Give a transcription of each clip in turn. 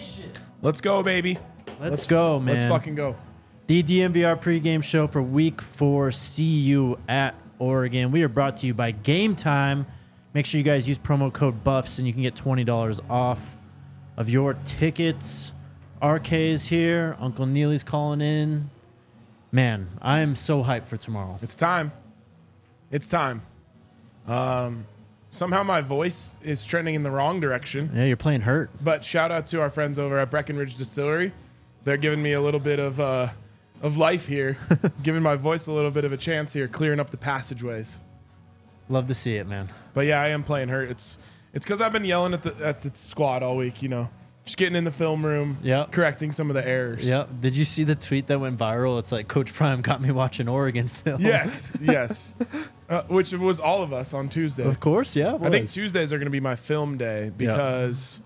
Let's go, baby. Let's go, man. Let's fucking go. The DNVR pregame show for Week 4 CU at Oregon. We are brought to you by Game Time. Make sure you guys use promo code BUFFS and you can get $20 off of your tickets. RK is here. Uncle Neely's calling in. Man, I am so hyped for tomorrow. It's time. It's time. Somehow my voice is trending in the wrong direction. Yeah, you're playing hurt. But shout out to our friends over at Breckenridge Distillery. They're giving me a little bit of life here, giving my voice a little bit of a chance here, clearing up the passageways. Love to see it, man. But yeah, I am playing hurt. It's because I've been yelling at the squad all week. You know, just getting in the film room, correcting some of the errors. Yep. Did you see the tweet that went viral? It's like Coach Prime got me watching Oregon film. Yes. Which was all of us on Tuesday. Of course, yeah. I think Tuesdays are going to be my film day because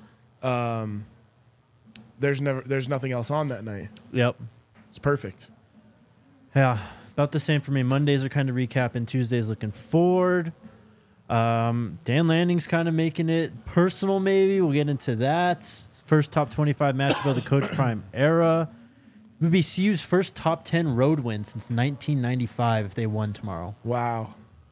there's nothing else on that night. Yep. It's perfect. Yeah, about the same for me. Mondays are kind of recapping. Tuesdays looking forward. Dan Lanning's kind of making it personal, maybe. We'll get into that. First top 25 matchup of the Coach Prime era. It would be CU's first top 10 road win since 1995 if they won tomorrow. Wow.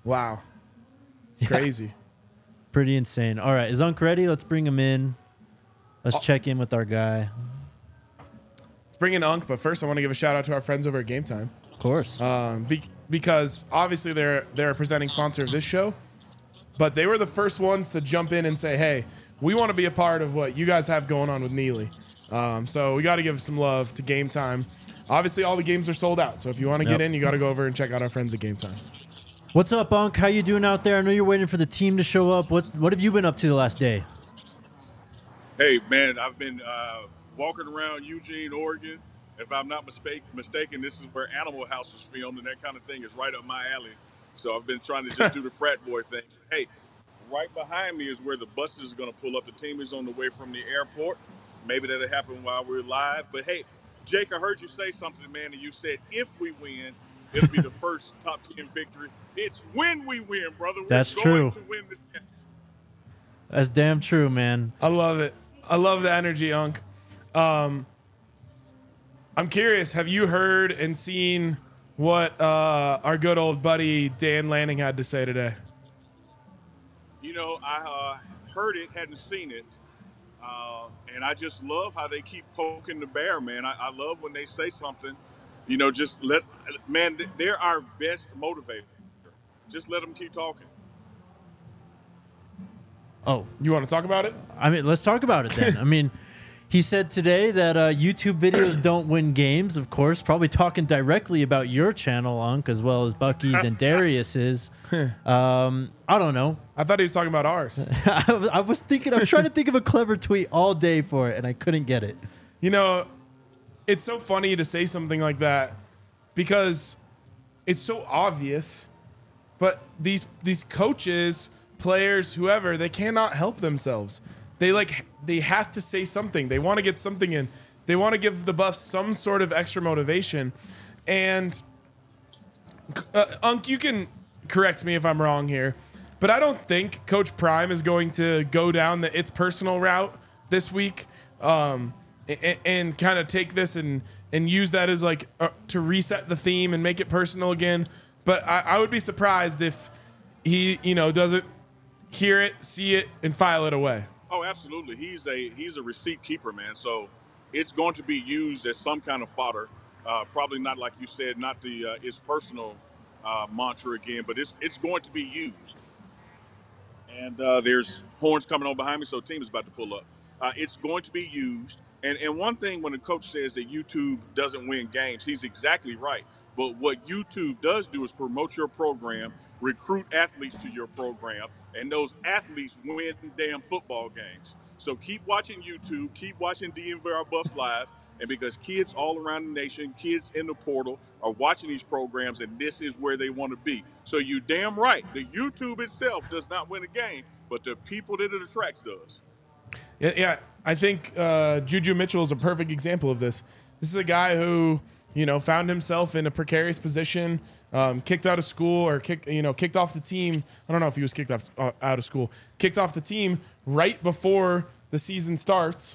Crazy. Pretty insane. All right, is Unc ready? Let's bring him in. Let's check in with our guy. Let's bring in Unc, but first I want to give a shout out to our friends over at Game Time. Of course. Because obviously they're a presenting sponsor of this show, but they were the first ones to jump in and say, hey, we want to be a part of what you guys have going on with Neely. So we got to give some love to Game Time. Obviously, all the games are sold out, so if you want to get in, you got to go over and check out our friends at Game Time. What's up, Unc? How you doing out there? I know you're waiting for the team to show up. What have you been up to the last day? Hey, man, I've been walking around Eugene, Oregon. If I'm not mistaken, this is where Animal House was filmed, and that kind of thing is right up my alley. So I've been trying to just do the frat boy thing. Hey, right behind me is where the bus is going to pull up. The team is on the way from the airport. Maybe that'll happen while we're live. But, hey, Jake, I heard you say something, man, and you said if we win, it'll be the first top 10 victory. It's when we win, brother. That's We're going true. to win this game. That's damn true, man. I love it. I love the energy, Unc. I'm curious, have you heard and seen what our good old buddy Dan Lanning had to say today? You know, I heard it, hadn't seen it. And I just love how they keep poking the bear, man. I love when they say something, you know, they're our best motivator. Just let them keep talking. Oh, you want to talk about it? I mean, let's talk about it then. I mean, he said today that YouTube videos don't win games, of course, probably talking directly about your channel, Unc, as well as Bucky's and Darius's. I don't know. I thought he was talking about ours. I was trying to think of a clever tweet all day for it, and I couldn't get it. You know, it's so funny to say something like that because it's so obvious, but these coaches, players, whoever, they cannot help themselves. They have to say something. They want to get something in. They want to give the Buffs some sort of extra motivation. And Unc, you can correct me if I'm wrong here, but I don't think Coach Prime is going to go down the it's personal route this week and kind of take this and use that as like to reset the theme and make it personal again. But I would be surprised if he, doesn't hear it, see it, and file it away. Oh, absolutely. He's a receipt keeper, man. So it's going to be used as some kind of fodder. Probably not, like you said, not the it's personal mantra again, but it's going to be used. And there's horns coming on behind me, so the team is about to pull up. It's going to be used. And one thing when the coach says that YouTube doesn't win games, he's exactly right. But what YouTube does do is promote your program, recruit athletes to your program, and those athletes win damn football games. So keep watching YouTube, keep watching DNVR Buffs Live, and because kids all around the nation, kids in the portal are watching these programs, and this is where they want to be. So you damn right, the YouTube itself does not win a game, but the people that it attracts does. Yeah, I think Juju Mitchell is a perfect example of this. This is a guy who, found himself in a precarious position, kicked out of school or kicked off the team. I don't know if he was kicked off out of school. Kicked off the team right before the season starts,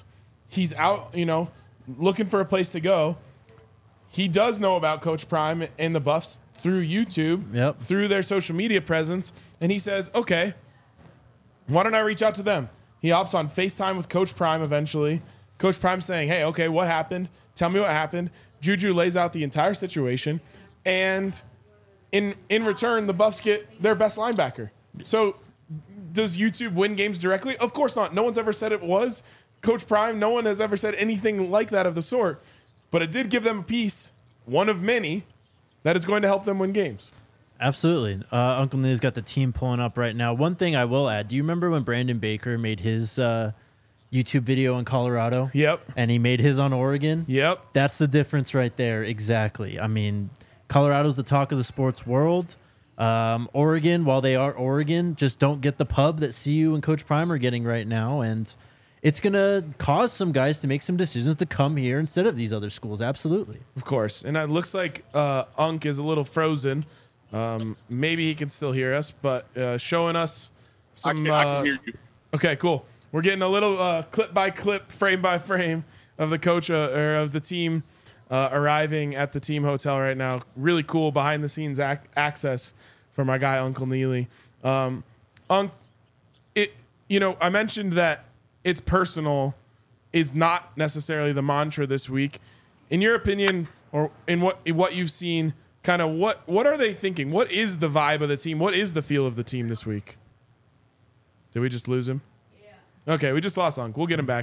he's out, looking for a place to go. He does know about Coach Prime and the Buffs through YouTube, through their social media presence, and he says, okay, why don't I reach out to them? He opts on FaceTime with Coach Prime eventually. Coach Prime saying, hey, okay, what happened? Tell me what happened. Juju lays out the entire situation, and in return, the Buffs get their best linebacker. So does YouTube win games directly? Of course not. No one's ever said it was. Coach Prime, no one has ever said anything like that of the sort. But it did give them a piece, one of many, that is going to help them win games. Absolutely. Uncle Neil's got the team pulling up right now. One thing I will add, do you remember when Brandon Baker made his YouTube video in Colorado? Yep. And he made his on Oregon? Yep. That's the difference right there. Exactly. I mean, Colorado's the talk of the sports world. Oregon, while they are Oregon, just don't get the pub that CU and Coach Prime are getting right now. And it's going to cause some guys to make some decisions to come here instead of these other schools. Absolutely. Of course. And it looks like Unk is a little frozen. Maybe he can still hear us, but showing us some... I can hear you. Okay, cool. We're getting a little clip by clip, frame by frame of the coach or of the team arriving at the team hotel right now. Really cool behind the scenes access for my guy, Uncle Neely. I mentioned that it's personal is not necessarily the mantra this week. In your opinion, or in what you've seen, kind of what are they thinking? What is the vibe of the team? What is the feel of the team this week? Did we just lose him? Yeah. Okay, we just lost Unc. We'll get him back.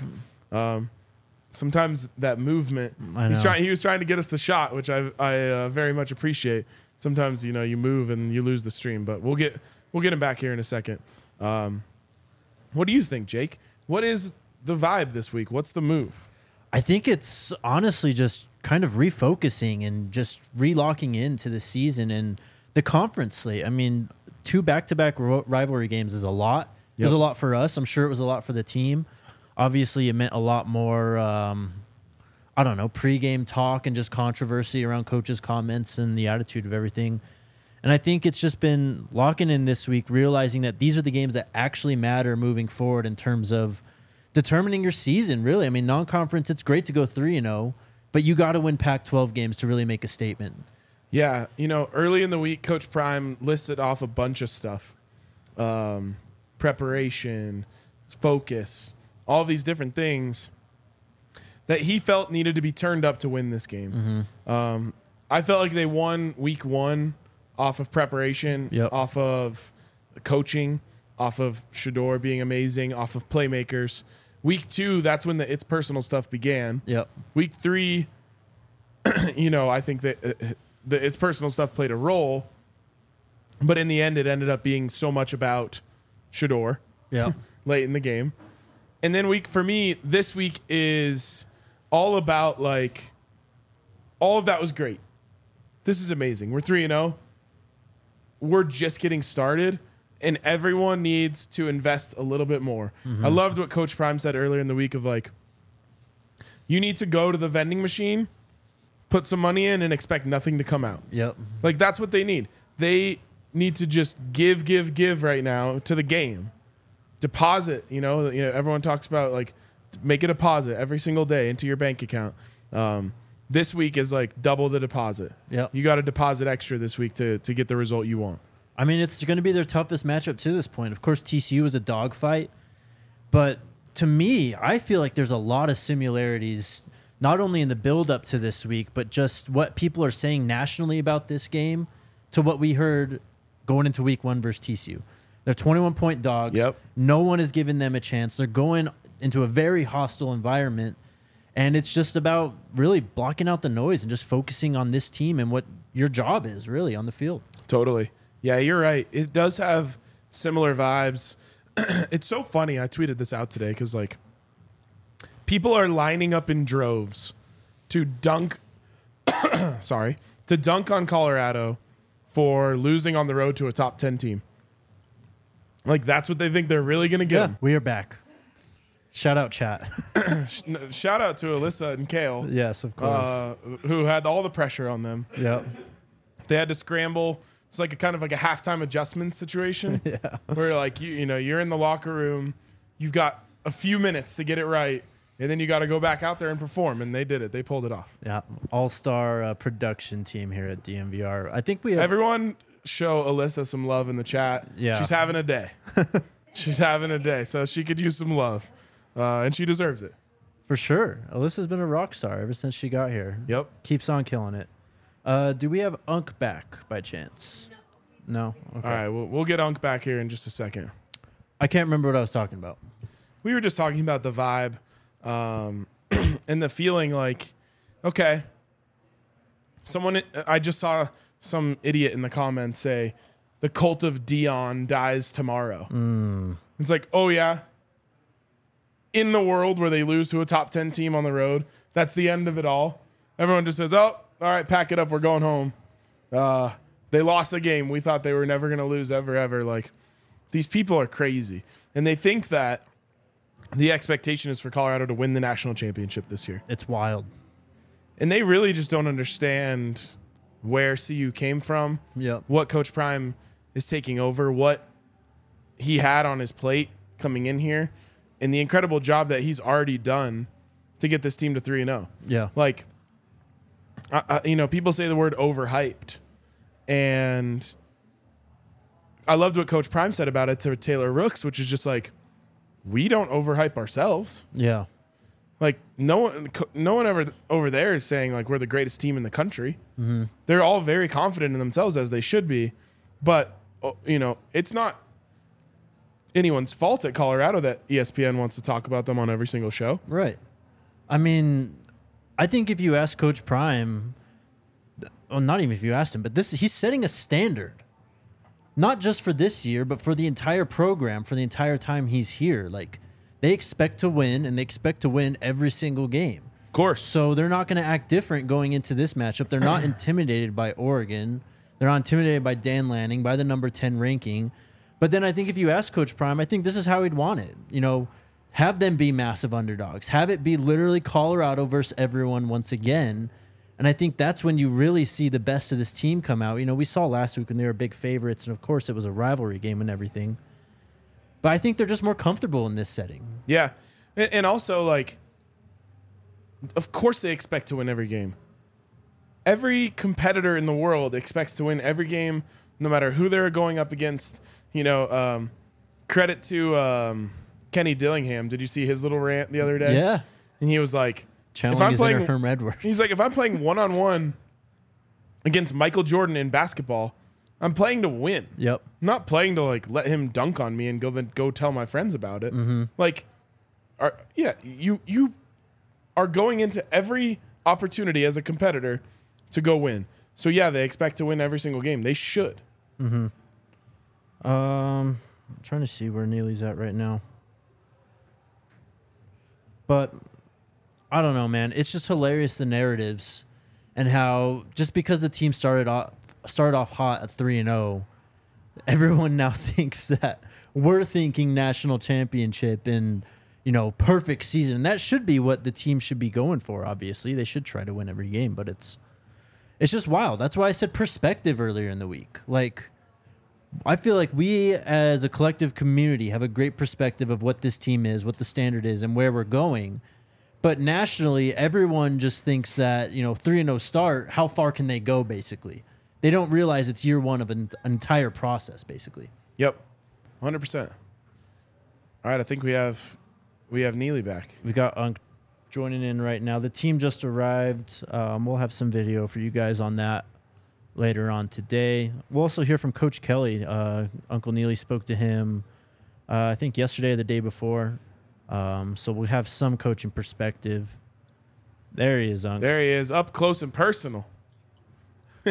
Sometimes that movement, he was trying to get us the shot, which I very much appreciate. Sometimes, you move and you lose the stream, but we'll get him back here in a second. What do you think, Jake? What is the vibe this week? What's the move? I think it's honestly just kind of refocusing and just relocking into the season and the conference slate. I mean, 2 back-to-back rivalry games is a lot. It was a lot for us. I'm sure it was a lot for the team. Obviously, it meant a lot more, pregame talk and just controversy around coaches' comments and the attitude of everything. And I think it's just been locking in this week, realizing that these are the games that actually matter moving forward in terms of determining your season, really. I mean, non-conference, it's great to go 3-0, but you got to win Pac-12 games to really make a statement. Yeah, early in the week, Coach Prime listed off a bunch of stuff. Preparation, focus, all these different things that he felt needed to be turned up to win this game. Mm-hmm. I felt like they won week 1 off of preparation, off of coaching, off of Shedeur being amazing, off of playmakers. Week 2, that's when the It's Personal stuff began. Yep. Week 3, I think that the It's Personal stuff played a role, but in the end, it ended up being so much about Shedeur late in the game. And then for me, this week is all about, all of that was great. This is amazing. We're 3-0. We're just getting started, and everyone needs to invest a little bit more. Mm-hmm. I loved what Coach Prime said earlier in the week of, you need to go to the vending machine, put some money in, and expect nothing to come out. Yep. That's what they need. They need to just give right now to the game. Deposit, everyone talks about, make a deposit every single day into your bank account. This week is double the deposit. Yep. You got to deposit extra this week to get the result you want. I mean, it's going to be their toughest matchup to this point. Of course, TCU is a dogfight, but to me, I feel like there's a lot of similarities, not only in the build-up to this week, but just what people are saying nationally about this game to what we heard going into week 1 versus TCU. They're 21-point dogs. Yep. No one is giving them a chance. They're going into a very hostile environment. And it's just about really blocking out the noise and just focusing on this team and what your job is really on the field. Totally. Yeah, you're right. It does have similar vibes. It's so funny. I tweeted this out today because, people are lining up in droves to dunk on Colorado for losing on the road to a top 10 team. That's what they think they're really going to get. We are back. Shout out, chat. Shout out to Alyssa and Kale. Yes, of course. Who had all the pressure on them. Yep. They had to scramble. It's a kind of a halftime adjustment situation. Where you're in the locker room. You've got a few minutes to get it right. And then you got to go back out there and perform, and they did it. They pulled it off. Yeah, all-star production team here at DNVR. I think we have Everyone show Alyssa some love in the chat. Yeah. She's having a day. She's having a day, so she could use some love, and she deserves it. for sure. Alyssa's been a rock star ever since she got here. Yep. Keeps on killing it. Do we have Unk back by chance? No. Okay. All right, we'll get Unk back here in just a second. I can't remember what I was talking about. We were just talking about the vibe and the feeling like, okay, I just saw some idiot in the comments say, the cult of Dion dies tomorrow. It's like, oh yeah, in the world where they lose to a top 10 team on the road, that's the end of it all. Everyone just says, oh, all right, pack it up, we're going home. They lost a game. We thought they were never going to lose ever. Like, these people are crazy. And they think that the expectation is for Colorado to win the national championship this year. It's wild. And they really just don't understand where CU came from, Yep. what Coach Prime is taking over, what he had on his plate coming in here, and the incredible job that he's already done to get this team to 3-0. Yeah. Like, people say the word overhyped. And I loved what Coach Prime said about it to Taylor Rooks, which is just like, we don't overhype ourselves. Yeah. Like, no one ever over there is saying, like, we're the greatest team in the country. Mm-hmm. They're all very confident in themselves, as they should be. But, it's not anyone's fault at Colorado that ESPN wants to talk about them on every single show. Right. I mean, I think if you ask Coach Prime, well, not even if you asked him, but he's setting a standard. Not just for this year, but for the entire program, for the entire time he's here. Like, they expect to win, and they expect to win every single game. Of course. So they're not going to act different going into this matchup. They're not intimidated by Oregon. They're not intimidated by Dan Lanning, by the number 10 ranking. But then I think if you ask Coach Prime, I think this is how he'd want it. Have them be massive underdogs. Have it be literally Colorado versus everyone once again. And I think that's when you really see the best of this team come out. We saw last week when they were big favorites, and of course it was a rivalry game and everything. But I think they're just more comfortable in this setting. Yeah. And also, like, of course they expect to win every game. Every competitor in the world expects to win every game, no matter who they're going up against. Credit to Kenny Dillingham. Did you see his little rant the other day? Yeah. And he was like, channeling his inner Herm Edwards. He's like, if I'm playing one-on-one against Michael Jordan in basketball, I'm playing to win. Yep. I'm not playing to, like, let him dunk on me and go tell my friends about it. Mm-hmm. Like, you are going into every opportunity as a competitor to go win. So yeah, they expect to win every single game. They should. Mm-hmm. I'm trying to see where Neely's at right now. But I don't know, man. It's just hilarious, the narratives and how just because the team started off hot at 3-0, everyone now thinks that we're thinking national championship and, perfect season. And that should be what the team should be going for, obviously. They should try to win every game, but it's just wild. That's why I said perspective earlier in the week. Like, I feel like we as a collective community have a great perspective of what this team is, what the standard is, and where we're going. But nationally, everyone just thinks that, 3-0 start, how far can they go, basically? They don't realize it's year one of an entire process, basically. Yep, 100%. All right, I think we have Neely back. We got Unk joining in right now. The team just arrived. We'll have some video for you guys on that later on today. We'll also hear from Coach Kelly. Uncle Neely spoke to him, I think yesterday or the day before. So we'll have some coaching perspective. There he is, Unk. There he is, up close and personal. Hey,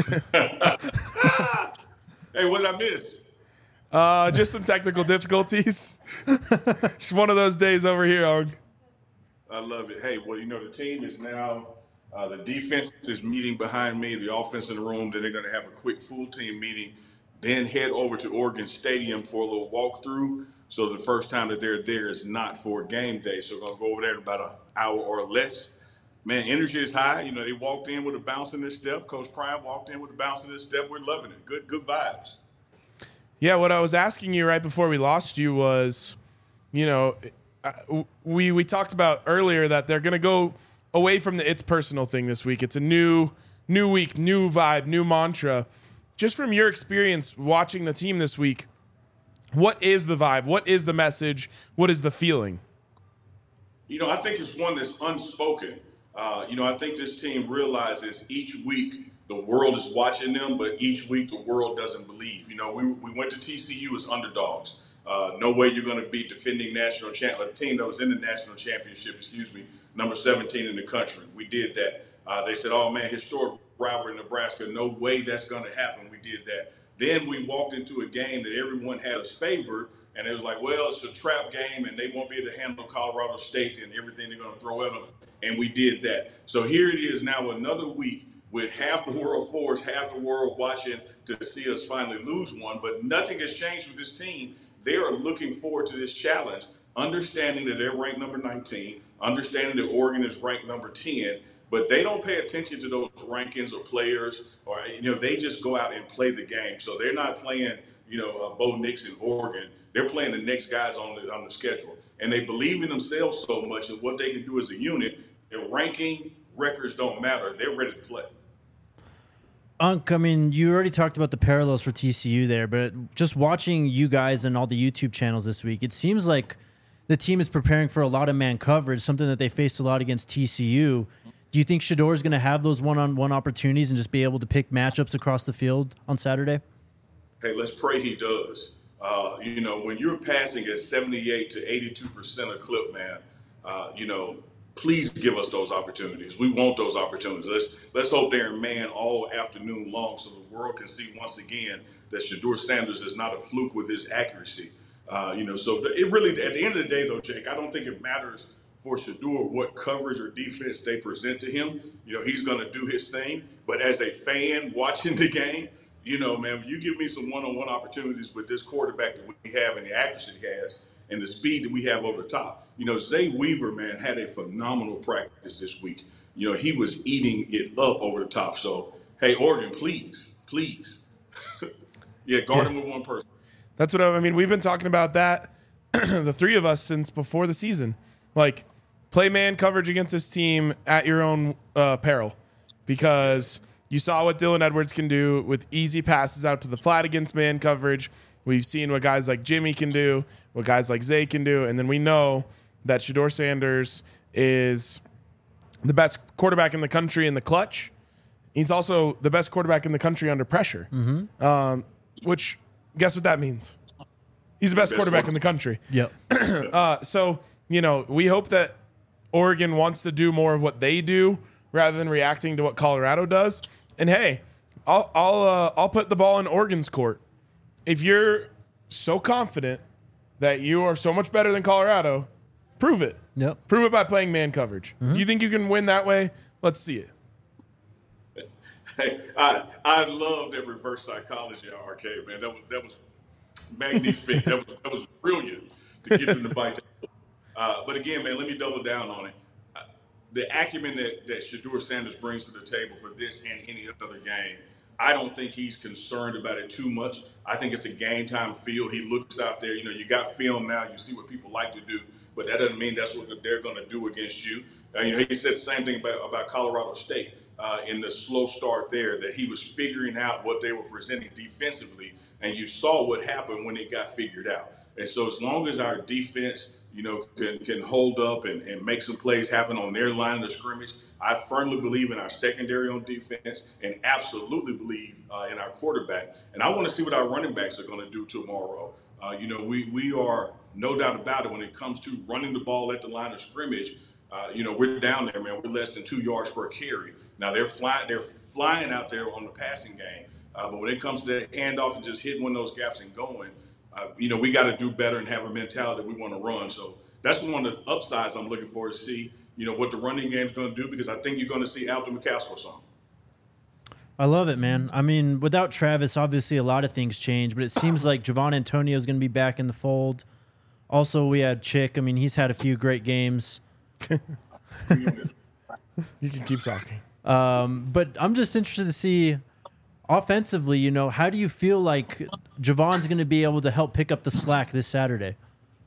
what did I miss? Just some technical difficulties. Just one of those days over here, Og. I love it. Hey, well, the team is now, the defense is meeting behind me, the offense in the room. Then they're going to have a quick full team meeting, then head over to Oregon Stadium for a little walkthrough. So the first time that they're there is not for game day. So we're going to go over there in about an hour or less. Man, energy is high. They walked in with a bounce in their step. Coach Prime walked in with a bounce in his step. We're loving it. Good vibes. Yeah, what I was asking you right before we lost you was, we talked about earlier that they're going to go away from the it's personal thing this week. It's a new week, new vibe, new mantra. Just from your experience watching the team this week, what is the vibe? What is the message? What is the feeling? I think it's one that's unspoken. I think this team realizes each week the world is watching them, but each week the world doesn't believe. We went to TCU as underdogs. No way you're going to be defending national champ, a team that was in the national championship, number 17 in the country. We did that. They said, oh, man, historic rivalry in Nebraska. No way that's going to happen. We did that. Then we walked into a game that everyone had us favored, and it was like, well, it's a trap game, and they won't be able to handle Colorado State and everything they're going to throw at them. And we did that. So here it is now, another week with half the world for us, half the world watching to see us finally lose one. But nothing has changed with this team. They are looking forward to this challenge, understanding that they're ranked number 19, understanding that Oregon is ranked number 10, but they don't pay attention to those rankings or players, or they just go out and play the game. So they're not playing, Bo Nix in Oregon. They're playing the next guys on the schedule, and they believe in themselves so much and what they can do as a unit. Their ranking records don't matter. They're ready to play. Unc, I mean, you already talked about the parallels for TCU there, but just watching you guys and all the YouTube channels this week, it seems like the team is preparing for a lot of man coverage, something that they faced a lot against TCU. Do you think Shedeur is going to have those one-on-one opportunities and just be able to pick matchups across the field on Saturday? Hey, let's pray he does. When you're passing at 78 to 82% of clip, man, please give us those opportunities. We want those opportunities. Let's hope they're in man all afternoon long so the world can see once again that Shedeur Sanders is not a fluke with his accuracy. So it really, at the end of the day, though, Jake, I don't think it matters for Shedeur what coverage or defense they present to him. He's going to do his thing. But as a fan watching the game, man, you give me some one-on-one opportunities with this quarterback that we have and the accuracy he has and the speed that we have over the top. Zay Weaver, man, had a phenomenal practice this week. He was eating it up over the top. So, hey, Oregon, please. Guard him with one person. That's what I mean. We've been talking about that, the three of us, since before the season. Like, play man coverage against this team at your own peril, because you saw what Dylan Edwards can do with easy passes out to the flat against man coverage. We've seen what guys like Jimmy can do, what guys like Zay can do, and then we know that Shedeur Sanders is the best quarterback in the country in the clutch. He's also the best quarterback in the country under pressure, which, guess what that means? He's the best quarterback in the country. Yep. So, we hope that Oregon wants to do more of what they do rather than reacting to what Colorado does. And hey, I'll put the ball in Oregon's court. If you're so confident that you are so much better than Colorado, prove it. Yep. Prove it by playing man coverage. If you think you can win that way, let's see it. Hey, I love that reverse psychology, RK, man. That was magnifique. that was brilliant to get them to bite. But again, man, let me double down on it. The acumen that Shedeur Sanders brings to the table for this and any other game, I don't think he's concerned about it too much. I think it's a game time feel. He looks out there, you got film now, you see what people like to do, but that doesn't mean that's what they're going to do against you. He said the same thing about Colorado State in the slow start there, that he was figuring out what they were presenting defensively, and you saw what happened when it got figured out. And so as long as our defense, can hold up and make some plays happen on their line of scrimmage, I firmly believe in our secondary on defense and absolutely believe in our quarterback. And I want to see what our running backs are going to do tomorrow. We are no doubt about it when it comes to running the ball at the line of scrimmage. We're down there, man. We're less than 2 yards per carry. Now they're flying out there on the passing game. But when it comes to that handoff and just hitting one of those gaps and going, we got to do better and have a mentality that we want to run. So that's one of the upsides I'm looking for to see, what the running game is going to do, because I think you're going to see Alton McCaskill some. I love it, man. I mean, without Travis, obviously a lot of things change, but it seems like Javon Antonio is going to be back in the fold. Also, we had Chick. I mean, he's had a few great games. You can keep talking. But I'm just interested to see offensively, how do you feel like Javon's going to be able to help pick up the slack this Saturday?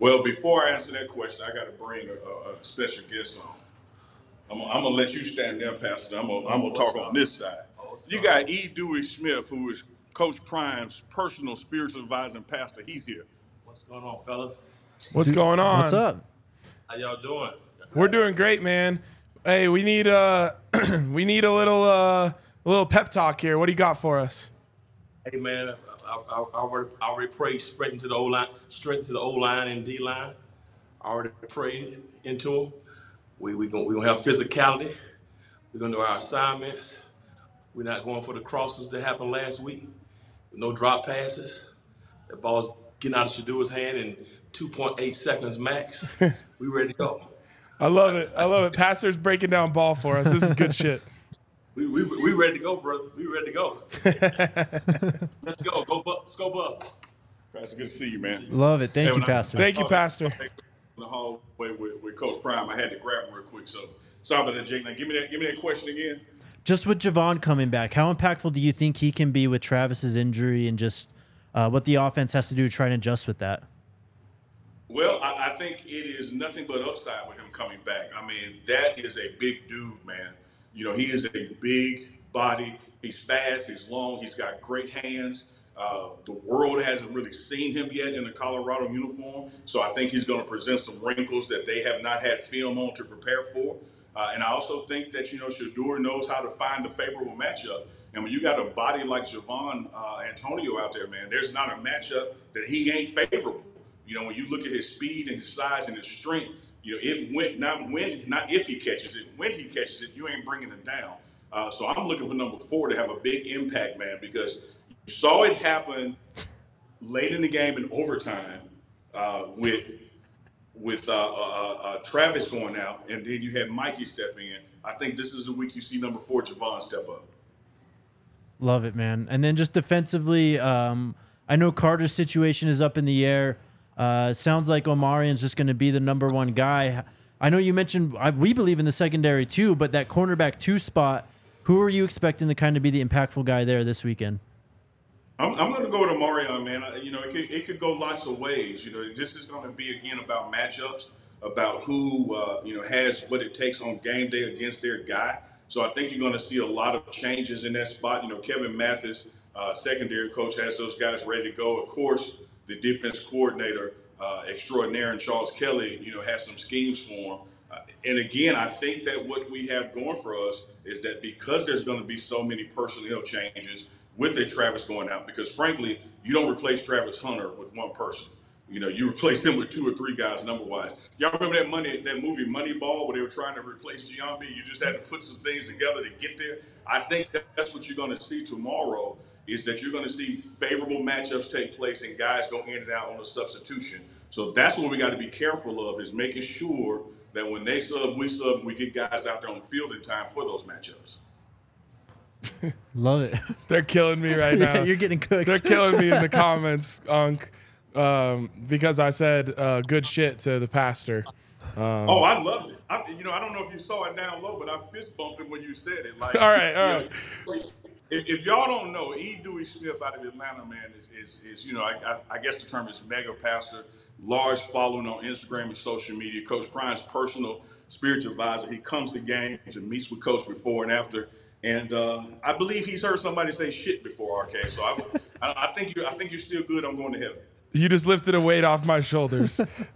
Well, before I answer that question, I got to bring a special guest on. I'm gonna let you stand there, Pastor. I'm gonna talk on this side. You got E. Dewey Smith, who is Coach Prime's personal spiritual advisor and pastor. He's here. What's going on, fellas? What's going on? What's up? How y'all doing? We're doing great, man. Hey, we need we need a little pep talk here. What do you got for us? Hey, man, I already prayed straight into the O line, and D line. I already prayed into them. We gonna have physicality. We're gonna do our assignments. We're not going for the crosses that happened last week. No drop passes. The ball's getting out of Shadua's hand in 2.8 seconds max. We ready to go. I love it. I love it. Pastor's breaking down ball for us. This is good shit. We ready to go, brother. We ready to go. Let's go. Go Bucks. Go Bucks. Pastor, good to see you, man. Love it. Thank you, Pastor. Thank you, Pastor. In the hallway with Coach Prime, I had to grab him real quick. So sorry about that, Jake. Now give me that question again. Just with Javon coming back, how impactful do you think he can be with Travis's injury and just what the offense has to do to try and adjust with that? Well, I think it is nothing but upside with him coming back. I mean, that is a big dude, man. You know, he is a big body. He's fast. He's long. He's got great hands. The world hasn't really seen him yet in a Colorado uniform, so I think he's going to present some wrinkles that they have not had film on to prepare for. And I also think that, you know, Shedeur knows how to find a favorable matchup. And when you got a body like Javon Antonio out there, man, there's not a matchup that he ain't favorable. You know, when you look at his speed and his size and his strength, you know, not if he catches it, when he catches it, you ain't bringing it down. So I'm looking for number 4 to have a big impact, man, because you saw it happen late in the game in overtime with Travis going out, and then you had Mikey step in. I think this is the week you see number 4, Javon, step up. Love it, man. And then just defensively, I know Carter's situation is up in the air. Sounds like Omarian's just going to be the number 1 guy. I know you mentioned we believe in the secondary too, but that cornerback 2 spot, who are you expecting to kind of be the impactful guy there this weekend? I'm going to go with Omarion, man. You know, it could go lots of ways. You know, this is going to be, again, about matchups, about who, you know, has what it takes on game day against their guy. So I think you're going to see a lot of changes in that spot. You know, Kevin Mathis, secondary coach, has those guys ready to go. Of course, the defense coordinator extraordinaire and Charles Kelly, you know, has some schemes for him. And again, I think that what we have going for us is that because there's going to be so many personnel changes with a Travis going out, because frankly, you don't replace Travis Hunter with one person. You know, you replace him with 2 or 3 guys number-wise. Y'all remember that movie Moneyball, where they were trying to replace Giambi? You just had to put some things together to get there. I think that's what you're going to see tomorrow, is that you're going to see favorable matchups take place and guys go in and out on a substitution. So that's what we got to be careful of, is making sure that when they sub, we get guys out there on the field in time for those matchups. Love it. They're killing me right now. Yeah, you're getting cooked. They're killing me in the comments, Unc, because I said good shit to the pastor. I loved it. I don't know if you saw it down low, but I fist bumped him when you said it. Like, all right. If y'all don't know, E. Dewey Smith out of Atlanta, man, is you know, I guess the term is mega pastor, large following on Instagram and social media. Coach Prime's personal spiritual advisor. He comes to games and meets with Coach before and after. And I believe he's heard somebody say shit before, RK. So I think you're still good. I'm going to heaven. You just lifted a weight off my shoulders.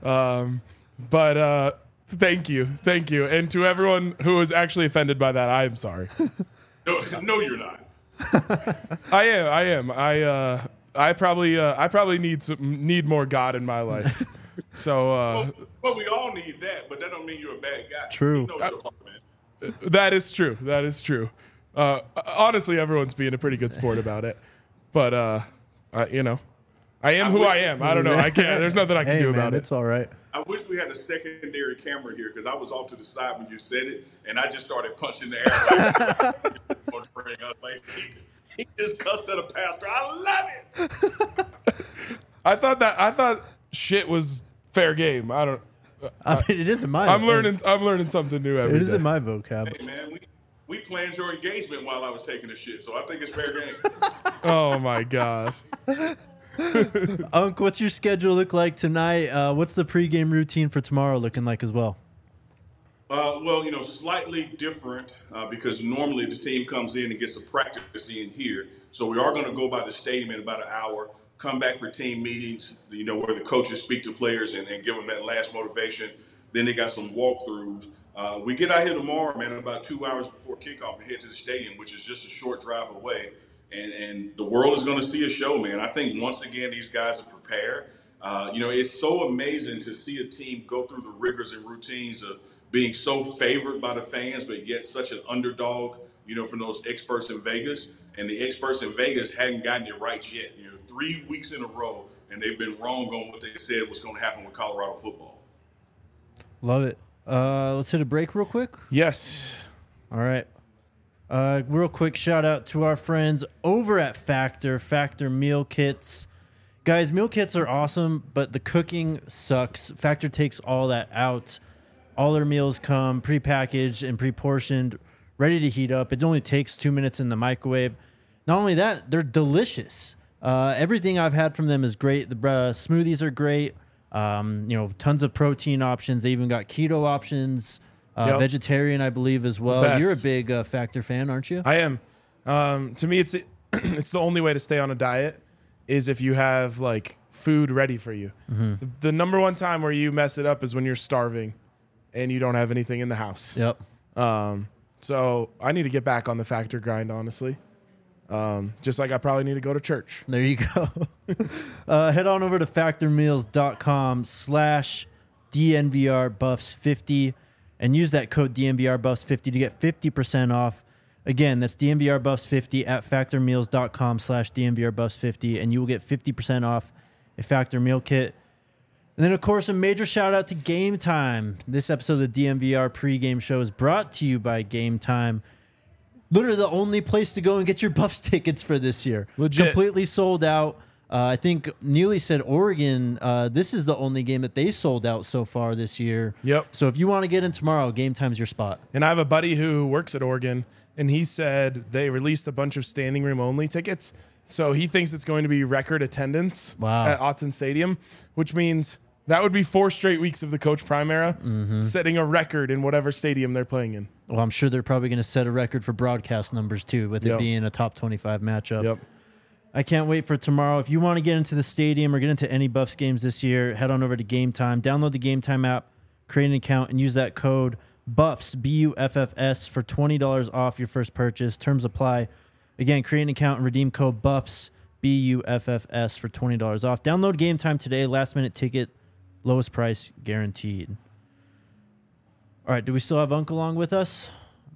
But thank you. And to everyone who was actually offended by that, I am sorry. No, you're not. I am. I probably need more God in my life. So well, we all need that, but that don't mean you're a bad guy. True. You know your part, man. That is true. Honestly, everyone's being a pretty good sport about it. But you know, I am who I am. I don't know. I can't. There's nothing I can do about it. It's all right. I wish we had a secondary camera here, because I was off to the side when you said it, and I just started punching the air. Like, he just cussed at a pastor. I love it. I thought shit was fair game. I don't. I mean, it isn't my. I'm learning something new every day. It isn't my vocab. Hey man, we planned your engagement while I was taking a shit, so I think it's fair game. Oh my god. Unc, what's your schedule look like tonight? What's the pregame routine for tomorrow looking like as well? Well, slightly different because normally the team comes in and gets a practice in here. So we are going to go by the stadium in about an hour, come back for team meetings, where the coaches speak to players and give them that last motivation. Then they got some walkthroughs. We get out here tomorrow, man, about 2 hours before kickoff and head to the stadium, which is just a short drive away. And the world is going to see a show, man. I think once again these guys are prepared. It's so amazing to see a team go through the rigors and routines of being so favored by the fans, but yet such an underdog, from those experts in Vegas. And the experts in Vegas hadn't gotten it right yet. 3 weeks in a row, and they've been wrong on what they said was going to happen with Colorado football. Love it. Let's hit a break real quick. Yes. All right. Real quick shout out to our friends over at Factor Meal Kits. Guys, meal kits are awesome, but the cooking sucks. Factor takes all that out. All their meals come prepackaged and pre-portioned, ready to heat up. It only takes 2 minutes in the microwave. Not only that, they're delicious. Everything I've had from them is great. The smoothies are great. Tons of protein options. They even got keto options. Vegetarian, I believe, as well. Best. You're a big Factor fan, aren't you? I am. To me, it's the only way to stay on a diet is if you have like food ready for you. Mm-hmm. The number one time where you mess it up is when you're starving and you don't have anything in the house. Yep. So I need to get back on the Factor grind, honestly. Just like I probably need to go to church. There you go. Head on over to factormeals.com/DNVRBuffs50 and use that code DNVRBuffs50 to get 50% off. Again, that's DNVRBuffs50 at factormeals.com/DNVRBuffs50, and you will get 50% off a Factor meal kit. And then, of course, a major shout out to Game Time. This episode of the DNVR pregame show is brought to you by Game Time. Literally the only place to go and get your Buffs tickets for this year. Legit. Completely sold out. I think Neely said Oregon, this is the only game that they sold out so far this year. Yep. So if you want to get in tomorrow, Game Time's your spot. And I have a buddy who works at Oregon, and he said they released a bunch of standing room only tickets. So he thinks it's going to be record attendance at Autzen Stadium, which means that would be 4 straight weeks of the Coach Prime era, setting a record in whatever stadium they're playing in. Well, I'm sure they're probably going to set a record for broadcast numbers, too, with it being a top 25 matchup. Yep. I can't wait for tomorrow. If you want to get into the stadium or get into any Buffs games this year, head on over to Game Time. Download the Game Time app, create an account, and use that code BUFFS, BUFFS, for $20 off your first purchase. Terms apply. Again, create an account and redeem code BUFFS, BUFFS, for $20 off. Download Game Time today. Last-minute ticket, lowest price guaranteed. All right, do we still have Unc along with us?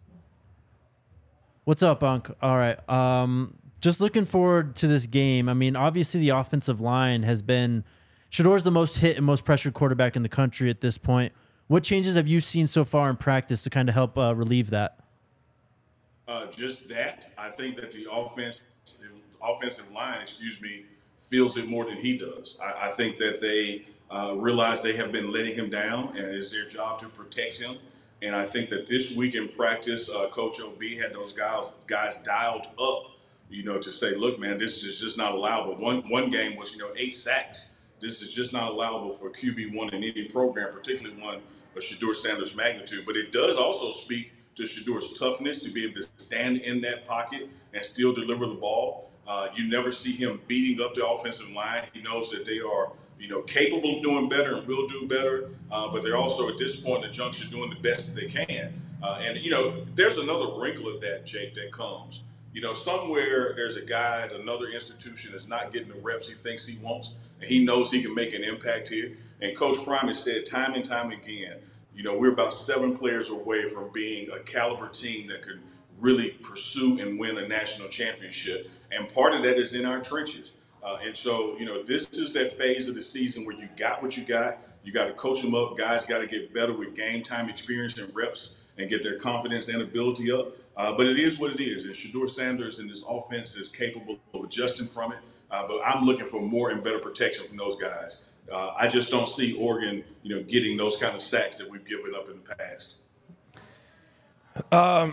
What's up, Unc? All right. Just looking forward to this game. I mean, obviously the offensive line has been Shedor's the most hit and most pressured quarterback in the country at this point. What changes have you seen so far in practice to kind of help relieve that? Just that. I think that the offensive line, feels it more than he does. I think that they realize they have been letting him down, and it's their job to protect him. And I think that this week in practice, Coach OB had those guys dialed up, to say, look, man, this is just not allowable. One game was, 8 sacks. This is just not allowable for QB1 in any program, particularly one of Shedeur Sanders' magnitude. But it does also speak to Shedeur's toughness to be able to stand in that pocket and still deliver the ball. You never see him beating up the offensive line. He knows that they are, capable of doing better and will do better. But they're also at this point in the juncture doing the best that they can. And there's another wrinkle of that, Jake, that comes. Somewhere there's a guy at another institution that's not getting the reps he thinks he wants, and he knows he can make an impact here. And Coach Prime has said time and time again, we're about 7 players away from being a caliber team that could really pursue and win a national championship. And part of that is in our trenches. And so, this is that phase of the season where you got what you got. You got to coach them up. Guys got to get better with game time experience and reps and get their confidence and ability up. But it is what it is. And Shedeur Sanders and this offense is capable of adjusting from it. But I'm looking for more and better protection from those guys. I just don't see Oregon, getting those kind of sacks that we've given up in the past.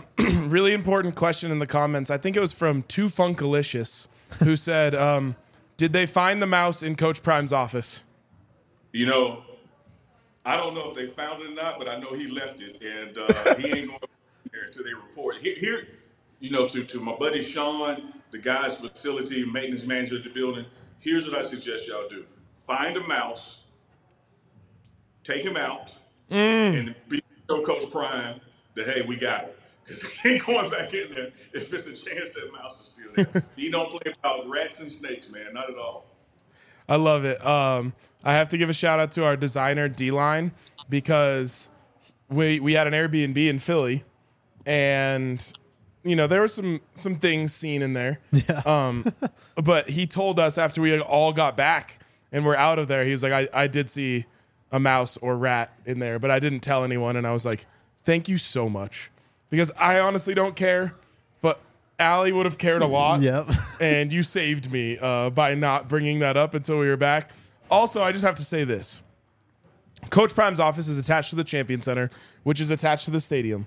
Really important question in the comments. I think it was from Too Funkalicious, who said, Did they find the mouse in Coach Prime's office? You know, I don't know if they found it or not, but I know he left it, and he ain't going there until they report. Here, you know, to my buddy Sean, the guy's facility maintenance manager at the building, here's what I suggest y'all do. Find a mouse, take him out, and show Coach Prime that, hey, we got it. Because he ain't going back in there if it's a chance that mouse is still there. He don't play about rats and snakes, man, not at all. I love it. I have to give a shout out to our designer D-Line because we had an Airbnb in Philly, and you know there were some things seen in there. Yeah. But he told us after we all got back and we're out of there, he was like, I did see a mouse or rat in there, but I didn't tell anyone. And I was like, thank you so much, because I honestly don't care, but Allie would have cared a lot. Yep. And you saved me by not bringing that up until we were back. Also, I just have to say this. Coach Prime's office is attached to the Champion Center, which is attached to the stadium.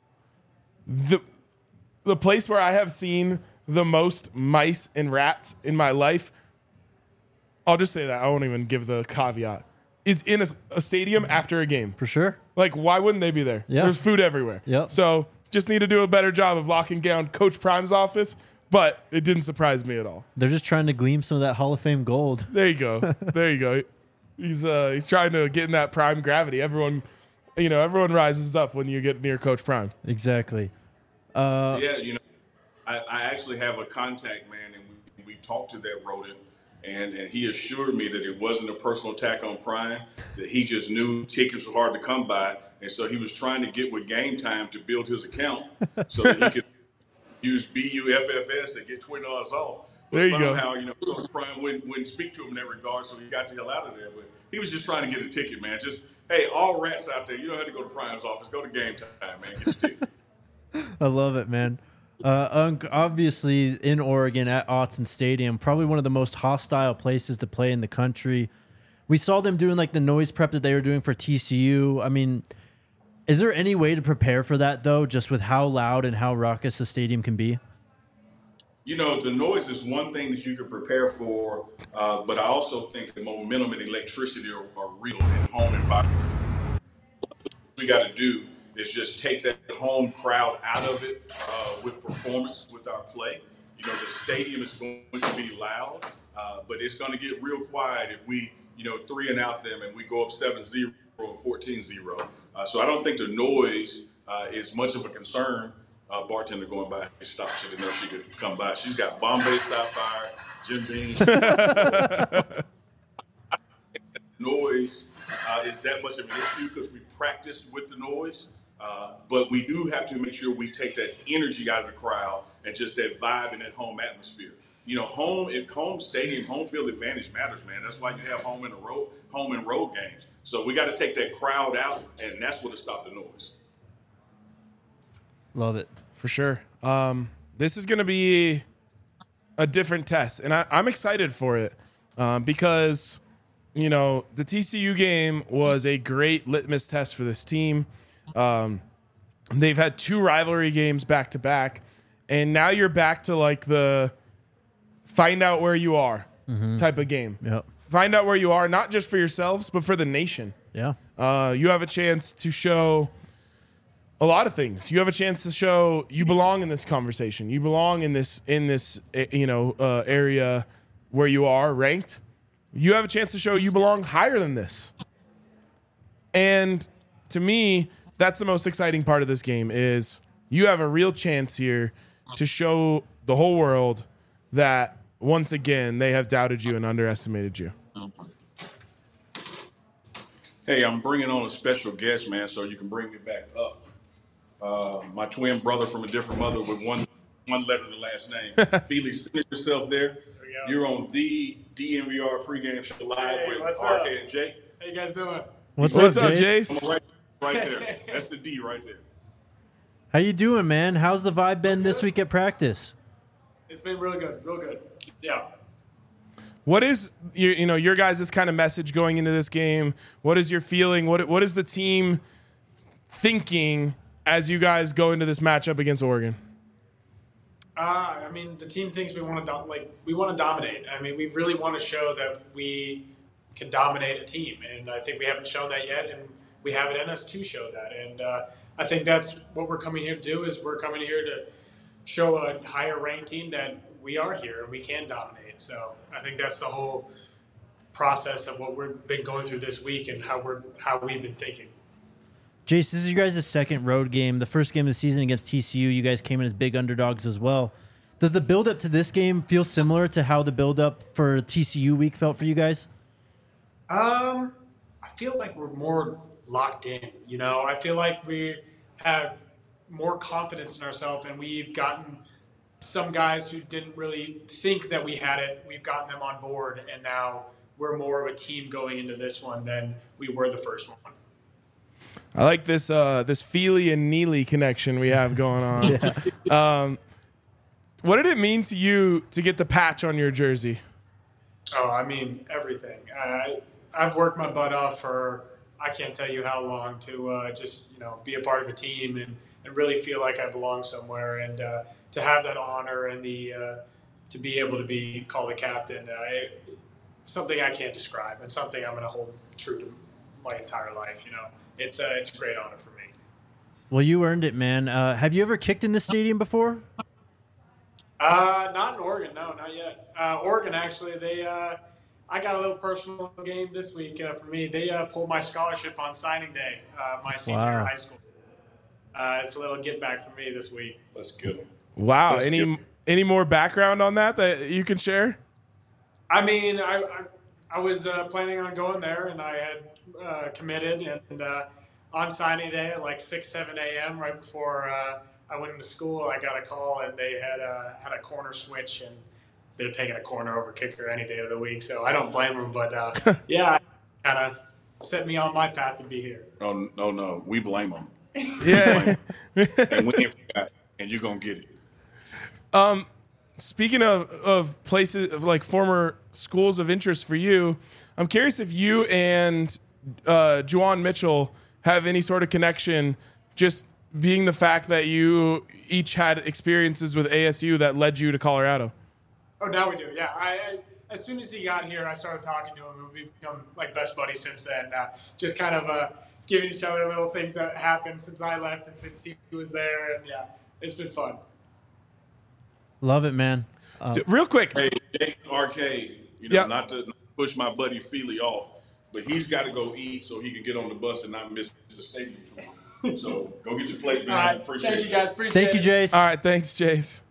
The place where I have seen the most mice and rats in my life, I'll just say that. I won't even give the caveat, is in a stadium after a game. For sure. Like, why wouldn't they be there? Yeah. There's food everywhere. Yep. So just need to do a better job of locking down Coach Prime's office, but it didn't surprise me at all. They're just trying to glean some of that Hall of Fame gold. There you go. There you go. He's trying to get in that prime gravity. Everyone rises up when you get near Coach Prime. Exactly. Yeah, you know, I actually have a contact, man, and we talked to that rodent, and he assured me that it wasn't a personal attack on Prime, that he just knew tickets were hard to come by, and so he was trying to get with Game Time to build his account so that he could use BUFFS to get $20 off. But there you somehow, go. you know, Coach Prime wouldn't speak to him in that regard, so he got the hell out of there. But he was just trying to get a ticket, man. Just, hey, all rats out there, you don't have to go to Prime's office. Go to Game Time, man. Get your ticket. I love it, man. Obviously, in Oregon at Autzen Stadium, probably one of the most hostile places to play in the country. We saw them doing like the noise prep that they were doing for TCU. I mean, is there any way to prepare for that, though, just with how loud and how raucous the stadium can be? You know, the noise is one thing that you can prepare for, but I also think the momentum and electricity are real in home environment. What we got to do is just take that home crowd out of it with performance, with our play. You know, the stadium is going to be loud, but it's going to get real quiet if we, you know, 3-and-out them and we go up 7-0 or 14-0. So I don't think the noise is much of a concern. Bartender going by, she stopped. She didn't know she could come by. She's got Bombay Sapphire, Jim Beam. Noise is that much of an issue because we practiced with the noise. But we do have to make sure we take that energy out of the crowd and just that vibe and that home atmosphere. You know, home stadium, home field advantage matters, man. That's why you have home and road games. So we got to take that crowd out, and that's what will stop the noise. Love it. For sure. This is going to be a different test, and I'm excited for it because, you know, the TCU game was a great litmus test for this team. They've had 2 rivalry games back to back, and now you're back to like the find out where you are type of game. Yep. Find out where you are, not just for yourselves, but for the nation. Yeah. You have a chance to show a lot of things. You have a chance to show you belong in this conversation. You belong in this area where you are ranked. You have a chance to show you belong higher than this. And to me, that's the most exciting part of this game is you have a real chance here to show the whole world that once again they have doubted you and underestimated you. Hey, I'm bringing on a special guest, man, so you can bring me back up. My twin brother from a different mother with one letter in the last name. Felix, finish yourself there. You're on the DNVR pregame show live with RK and Jake. How you guys doing? What's What's up, up, Jace? Jace? Right there. That's the D right there. How you doing, man? How's the vibe been this week at practice? It's been real good, real good. Yeah. What is your guys' kind of message going into this game? What is your feeling? What is the team thinking as you guys go into this matchup against Oregon? I mean, the team thinks we want to we want to dominate. I mean, we really want to show that we can dominate a team, and I think we haven't shown that yet, and we have it in us to show that. And I think that's what we're coming here to do. Is we're coming here to show a higher ranked team that we are here and we can dominate. So I think that's the whole process of what we've been going through this week and how we've been thinking. Jace, this is you guys' second road game. The first game of the season against TCU, you guys came in as big underdogs as well. Does the build-up to this game feel similar to how the build-up for TCU week felt for you guys? I feel like we're more locked in. You know, I feel like we have more confidence in ourselves, and we've gotten some guys who didn't really think that we had it. We've gotten them on board, and now we're more of a team going into this one than we were the first one. I like this this Feely and Neely connection we have going on. Yeah. What did it mean to you to get the patch on your jersey? Oh, I mean, everything. I've worked my butt off for I can't tell you how long to just be a part of a team and really feel like I belong somewhere, and to have that honor and the to be able to be called a captain, something I can't describe, and something I'm going to hold true to my entire life. It's a great honor for me. Well, you earned it, man. Have you ever kicked in this stadium before? Not in Oregon, no, not yet. Oregon, actually, I got a little personal game this week for me. They pulled my scholarship on signing day, my senior year of high school. It's a little get back for me this week. Let's get them. Wow. Any more background on that you can share? I mean, I was planning on going there, and I had committed, and on signing day at like 6, 7 a.m. right before I went into school, I got a call, and they had a corner switch, and they're taking a corner over kicker any day of the week. So I don't blame them, but yeah, kind of set me on my path to be here. Oh no, we blame them. Yeah, and we ain't forgot, and you're gonna get it. Speaking of places of like former schools of interest for you, I'm curious if you and Juwan Mitchell have any sort of connection, just being the fact that you each had experiences with ASU that led you to Colorado. Oh, now we do. Yeah, I as soon as he got here, I started talking to him, and we've become like best buddies since then. Just kind of giving each other little things that happened since I left and since he was there, and yeah, it's been fun. Love it, man. Real quick, Hey, Jake Arcade, not to push my buddy Feely off, but he's got to go eat so he can get on the bus and not miss the stadium tour. So go get your plate, man. All right, Appreciate thank you guys. Appreciate Thank you, it. Jace. all right, thanks, Jace.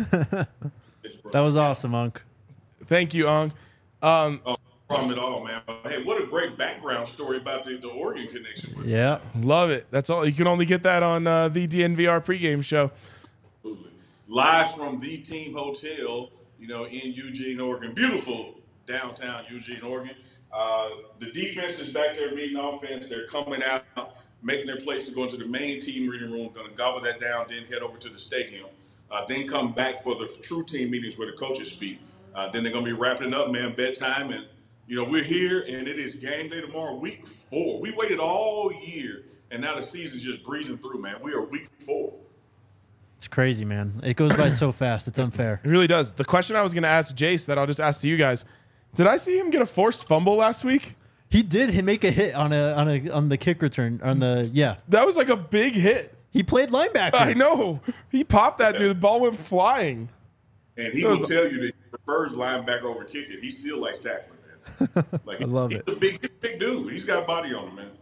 That was awesome, Unc. Thank you, Ong. Oh, no problem at all, man. Hey, what a great background story about the Oregon connection. Yeah. Love it. That's all. You can only get that on the DNVR pregame show. Absolutely. Live from the Team Hotel, in Eugene, Oregon. Beautiful downtown Eugene, Oregon. The defense is back there meeting offense. They're coming out, making their place to go into the main team reading room, going to gobble that down, then head over to the stadium. Then come back for the true team meetings where the coaches speak. Then they're going to be wrapping it up, man, bedtime. And, we're here, and it is game day tomorrow, week 4. We waited all year, and now the season's just breezing through, man. We are week 4. It's crazy, man. It goes by so fast. It's unfair. It really does. The question I was going to ask Jace that I'll just ask to you guys, did I see him get a forced fumble last week? He did make a hit on the kick return That was like a big hit. He played linebacker. I know. He popped that dude. The ball went flying. And he will tell you that he prefers linebacker over kicker. He still likes tackling, man. Like, I love he's it. a big dude. He's got a body on him, man.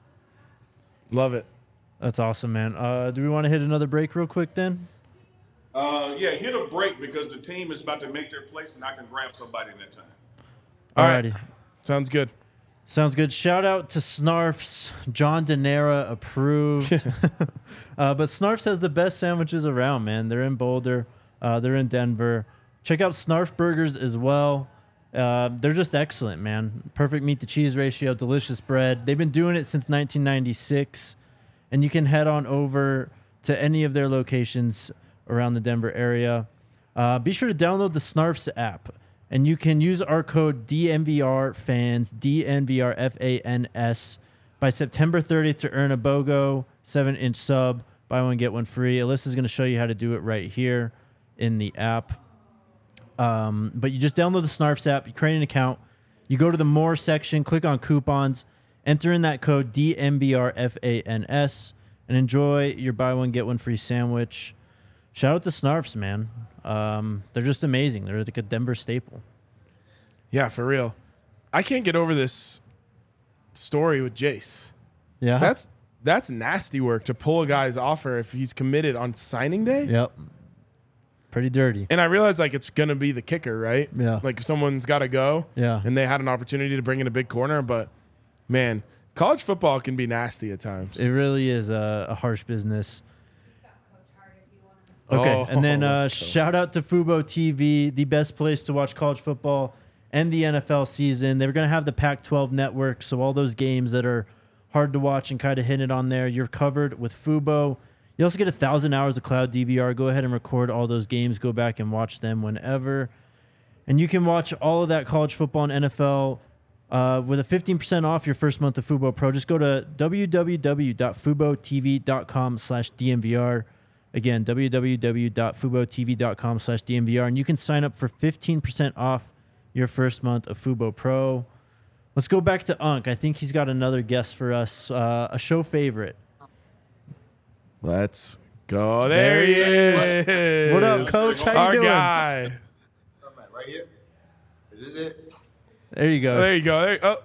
Love it. That's awesome, man. Do we want to hit another break real quick then? Yeah, hit a break because the team is about to make their place, and I can grab somebody in that time. Alrighty. Sounds good. Sounds good. Shout out to Snarfs. John Denera approved. But Snarfs has the best sandwiches around, man. They're in Boulder. They're in Denver. Check out Snarf Burgers as well. They're just excellent, man. Perfect meat to cheese ratio, delicious bread. They've been doing it since 1996. And you can head on over to any of their locations around the Denver area. Be sure to download the Snarfs app. And you can use our code DNVRFANS, DNVRFANS, by September 30th to earn a BOGO 7-inch sub. Buy one, get one free. Alyssa's going to show you how to do it right here. in the app. But you just download the Snarfs app, you create an account, you go to the More section, click on coupons, enter in that code DMBRFANS, and enjoy your buy one, get one free sandwich. Shout out to Snarfs, man. They're just amazing. They're like a Denver staple. Yeah, for real. I can't get over this story with Jace. Yeah. That's nasty work to pull a guy's offer if he's committed on signing day. Yep. Pretty dirty. And I realize like it's gonna be the kicker, right? Yeah. Like if someone's got to go. Yeah. And they had an opportunity to bring in a big corner, but man, college football can be nasty at times. It really is a harsh business. Okay, and then let's go. shout out to Fubo TV, the best place to watch college football and the NFL season. They were going to have the Pac-12 network, so all those games that are hard to watch and kind of hit it on there, you're covered with Fubo. You also get 1,000 hours of cloud DVR. Go ahead and record all those games. Go back and watch them whenever. And you can watch all of that college football and NFL with a 15% off your first month of Fubo Pro. Just go to www.fubotv.com/DMVR. Again, www.fubotv.com/DMVR. And you can sign up for 15% off your first month of Fubo Pro. Let's go back to Unc. I think he's got another guest for us, a show favorite. Let's go. There he is. What up, Coach? How you Our doing? guy. Right here. Is this it? There you go. There you go.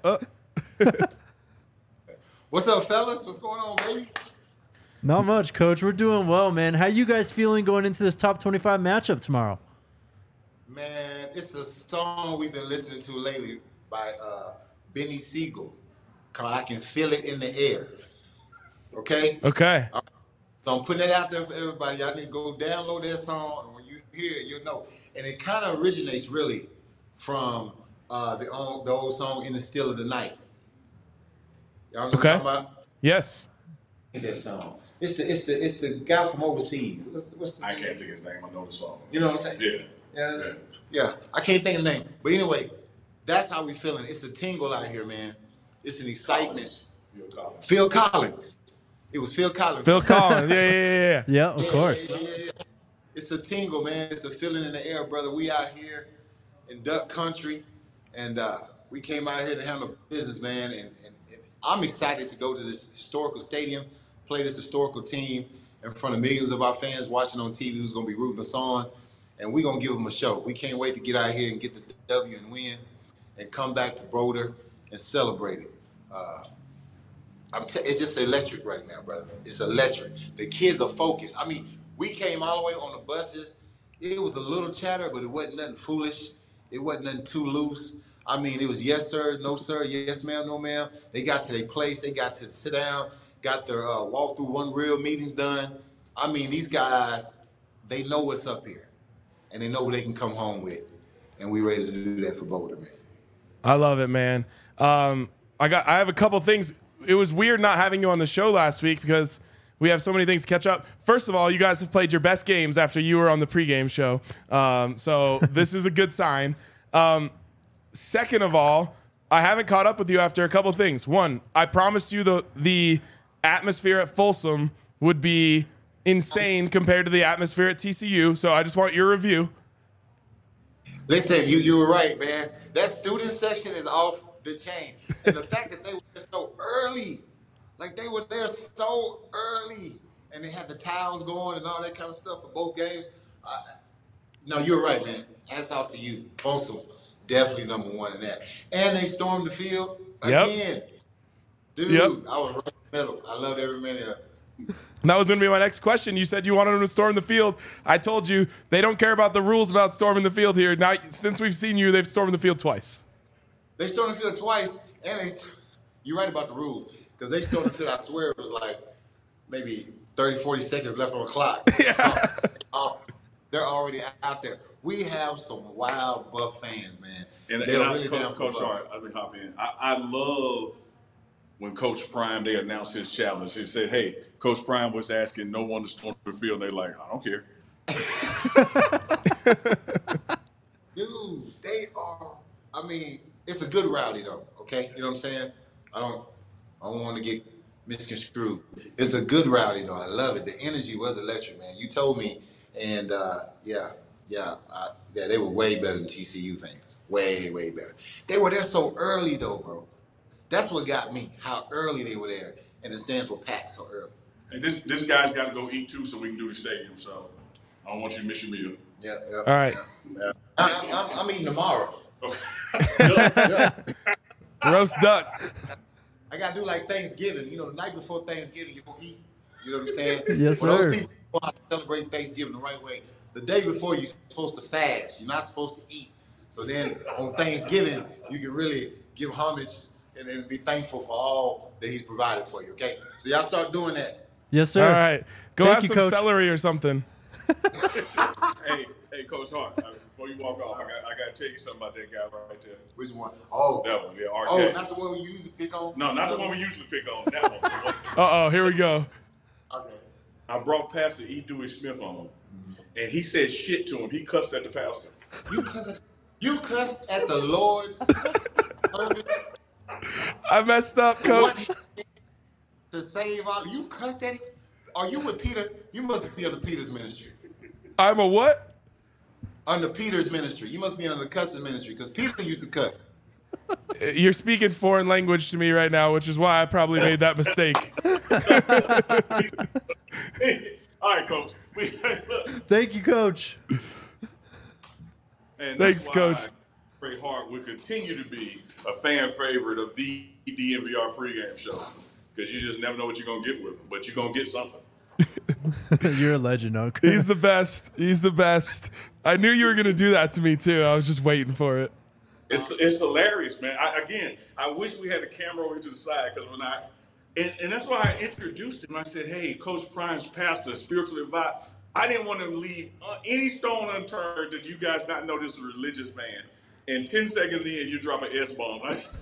What's up, fellas? What's going on, baby? Not much, Coach. We're doing well, man. How you guys feeling going into this top 25 matchup tomorrow? Man, it's a song we've been listening to lately by Benny Siegel called I Can Feel It in the Air. Okay? Okay. So I'm putting that out there for everybody. Y'all need to go download that song, and when you hear it, you'll know. And it kind of originates really from the old song In the Still of the Night. Y'all know what I'm talking about? Yes. What's that song? It's the guy from overseas. What's the I can't think his name. I know the song. You know what I'm saying? Yeah. I can't think of the name. But anyway, that's how we feeling. It's a tingle out here, man. It's an excitement. Phil Collins. It was Phil Collins. Phil Collins. Yeah. Yeah, of course. Yeah. It's a tingle, man. It's a feeling in the air, brother. We out here in Duck Country, and we came out here to handle business, man. And I'm excited to go to this historical stadium, play this historical team in front of millions of our fans watching on TV who's going to be rooting us on. And we're going to give them a show. We can't wait to get out here and get the W and win and come back to Boulder and celebrate it. It's just electric right now, brother. It's electric. The kids are focused. I mean, we came all the way on the buses. It was a little chatter, but it wasn't nothing foolish. It wasn't nothing too loose. I mean, it was yes, sir, no, sir, yes, ma'am, no, ma'am. They got to their place. They got to sit down, got their walk-through one real meetings done. I mean, these guys, they know what's up here, and they know what they can come home with, and we ready to do that for Boulder, man. I love it, man. I have a couple things. It was weird not having you on the show last week because we have so many things to catch up. First of all, you guys have played your best games after you were on the pregame show. So this is a good sign. Second of all, I haven't caught up with you after a couple of things. One, I promised you the atmosphere at Folsom would be insane compared to the atmosphere at TCU. So I just want your review. Listen, you were right, man. That student section is off the chain. And the fact that they were there so early, like they were there so early, and they had the towels going and all that kind of stuff for both games. No, you're right, man. Hats off to you. Folsom, definitely number one in that. And they stormed the field again. Dude, I was right in the middle. I loved every minute of it. That was going to be my next question. You said you wanted them to storm the field. I told you they don't care about the rules about storming the field here. Now, since we've seen you, they've stormed the field twice. They stormed the field twice, and you're right about the rules, because they stormed the field, I swear it was like maybe 30, 40 seconds left on the clock. Yeah. They're already out there. We have some wild Buck fans, man. And really down for Coach, sorry, Bucks. let me hop in. I love when Coach Prime, they announced his challenge. He said, hey, Coach Prime was asking no one to storm the field. They're like, I don't care. Dude, they are, I mean, it's a good rowdy though, okay? You know what I'm saying? I don't want to get misconstrued. It's a good rowdy though. I love it. The energy was electric, man. You told me And yeah, they were way better than TCU fans. Way, way better. They were there so early, though, bro. That's what got me, how early they were there. And the stands were packed so early. And this guy's got to go eat, too, so we can do the stadium. So I don't want you to miss your meal. Yeah. All right. Yeah. I'm eating tomorrow. Okay. Roast duck. I got to do like Thanksgiving. You know, the night before Thanksgiving, you don't eat. You know what I'm saying? Yes, For sir. those people who know how to celebrate Thanksgiving the right way, the day before you're supposed to fast. You're not supposed to eat. So then on Thanksgiving, you can really give homage and be thankful for all that he's provided for you, okay? So y'all start doing that. Yes, sir. All right. Go Thank have you, some Coach. celery or something. Hey, Coach Hart, before you walk off, I got to tell you something about that guy right there. Which one? Oh, That one, yeah, RK. oh, not the one we usually pick on? No, not the one we usually pick on. That one. Uh-oh, here we go. Okay. I brought Pastor E. Dewey Smith on, and he said shit to him. He cussed at the pastor. You cussed at the Lord's servant I messed up, Coach. to save all. You cussed at him? Are you with Peter? You must be under Peter's ministry. I'm a what? Under Peter's ministry. You must be under the cussing ministry because Peter used to cuss. You're speaking foreign language to me right now, which is why I probably made that mistake. All right, Coach. Thank you, Coach. And Thanks, that's why Coach. Trey Hart will continue to be a fan favorite of the DNVR pregame show because you just never know what you're going to get with him, but you're going to get something. You're a legend, Uncle. He's the best. He's the best. I knew you were going to do that to me, too. I was just waiting for it. It's hilarious, man. I wish we had a camera over to the side because when and that's why I introduced him. I said, hey, Coach Prime's pastor, spiritual advisor. I didn't want to leave any stone unturned that you guys not know this is a religious man. And 10 seconds in, you drop an S-bomb.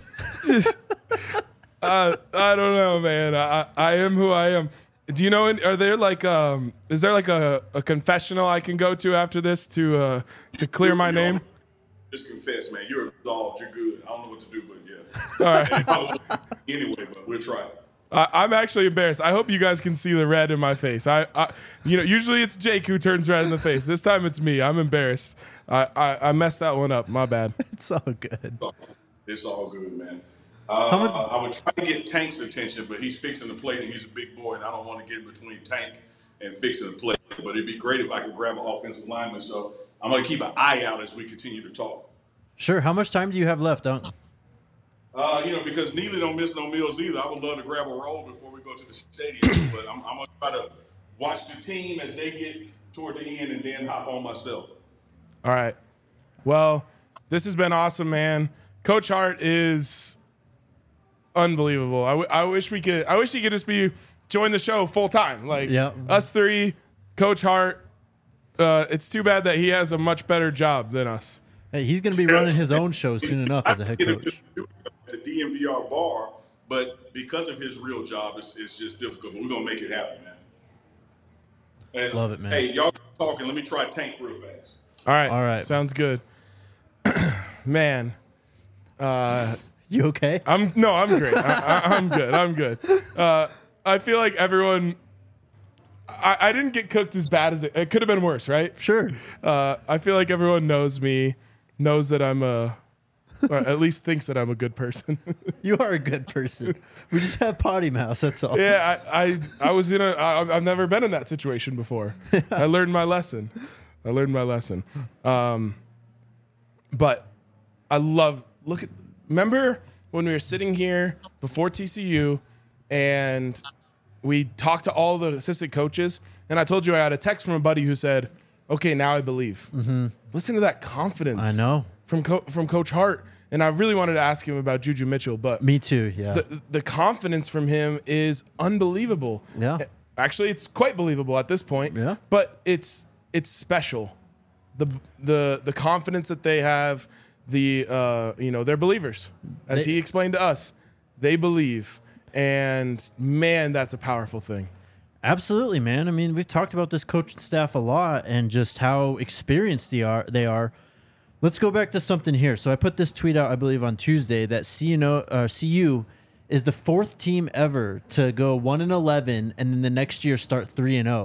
I don't know, man. I am who I am. Do you know, are there like, is there like a confessional I can go to after this to clear my name? Just confess, man. You're absolved. You're good. I don't know what to do, but yeah. All right. Anyway, but we'll try it. I'm actually embarrassed. I hope you guys can see the red in my face. Usually it's Jake who turns red in the face. This time it's me. I'm embarrassed. I messed that one up. My bad. It's all good. It's all good, man. I would try to get Tank's attention, but he's fixing the plate and he's a big boy, and I don't want to get in between Tank and fixing the plate. But it'd be great if I could grab an offensive lineman. So I'm going to keep an eye out as we continue to talk. Sure. How much time do you have left, Uncle? Because Neely don't miss no meals either. I would love to grab a roll before we go to the stadium, but I'm going to try to watch the team as they get toward the end and then hop on myself. All right. Well, this has been awesome, man. Coach Hart is unbelievable. I wish he could just join the show full time. Like us three, Coach Hart. It's too bad that he has a much better job than us. Hey, he's going to be running his own show soon enough as a head coach. The DNVR bar, but because of his real job, it's just difficult. But we're gonna make it happen, man. And, love it, man. Hey, y'all talking? Let me try Tank real fast. All right. Sounds good. Man, you okay? I'm great. I'm good. I'm good. I feel like everyone. I didn't get cooked as bad as it could have been worse, right? Sure. I feel like everyone knows me, knows that I'm or at least thinks that I'm a good person. You are a good person. We just have potty mouth. That's all. Yeah, I was I've never been in that situation before. I learned my lesson. But I remember when we were sitting here before TCU and we talked to all the assistant coaches, and I told you I had a text from a buddy who said, okay, now I believe. Mm-hmm. Listen to that confidence. I know. From Coach Hart. And I really wanted to ask him about Juju Mitchell, but me too. Yeah, the confidence from him is unbelievable. Yeah, actually, it's quite believable at this point. Yeah, but it's special. The confidence that they have. They're believers, as he explained to us. They believe, and man, that's a powerful thing. Absolutely, man. I mean, we've talked about this coaching staff a lot and just how experienced they are. Let's go back to something here. So I put this tweet out, I believe, on Tuesday that CU is the fourth team ever to go 1-11 and then the next year start 3-0,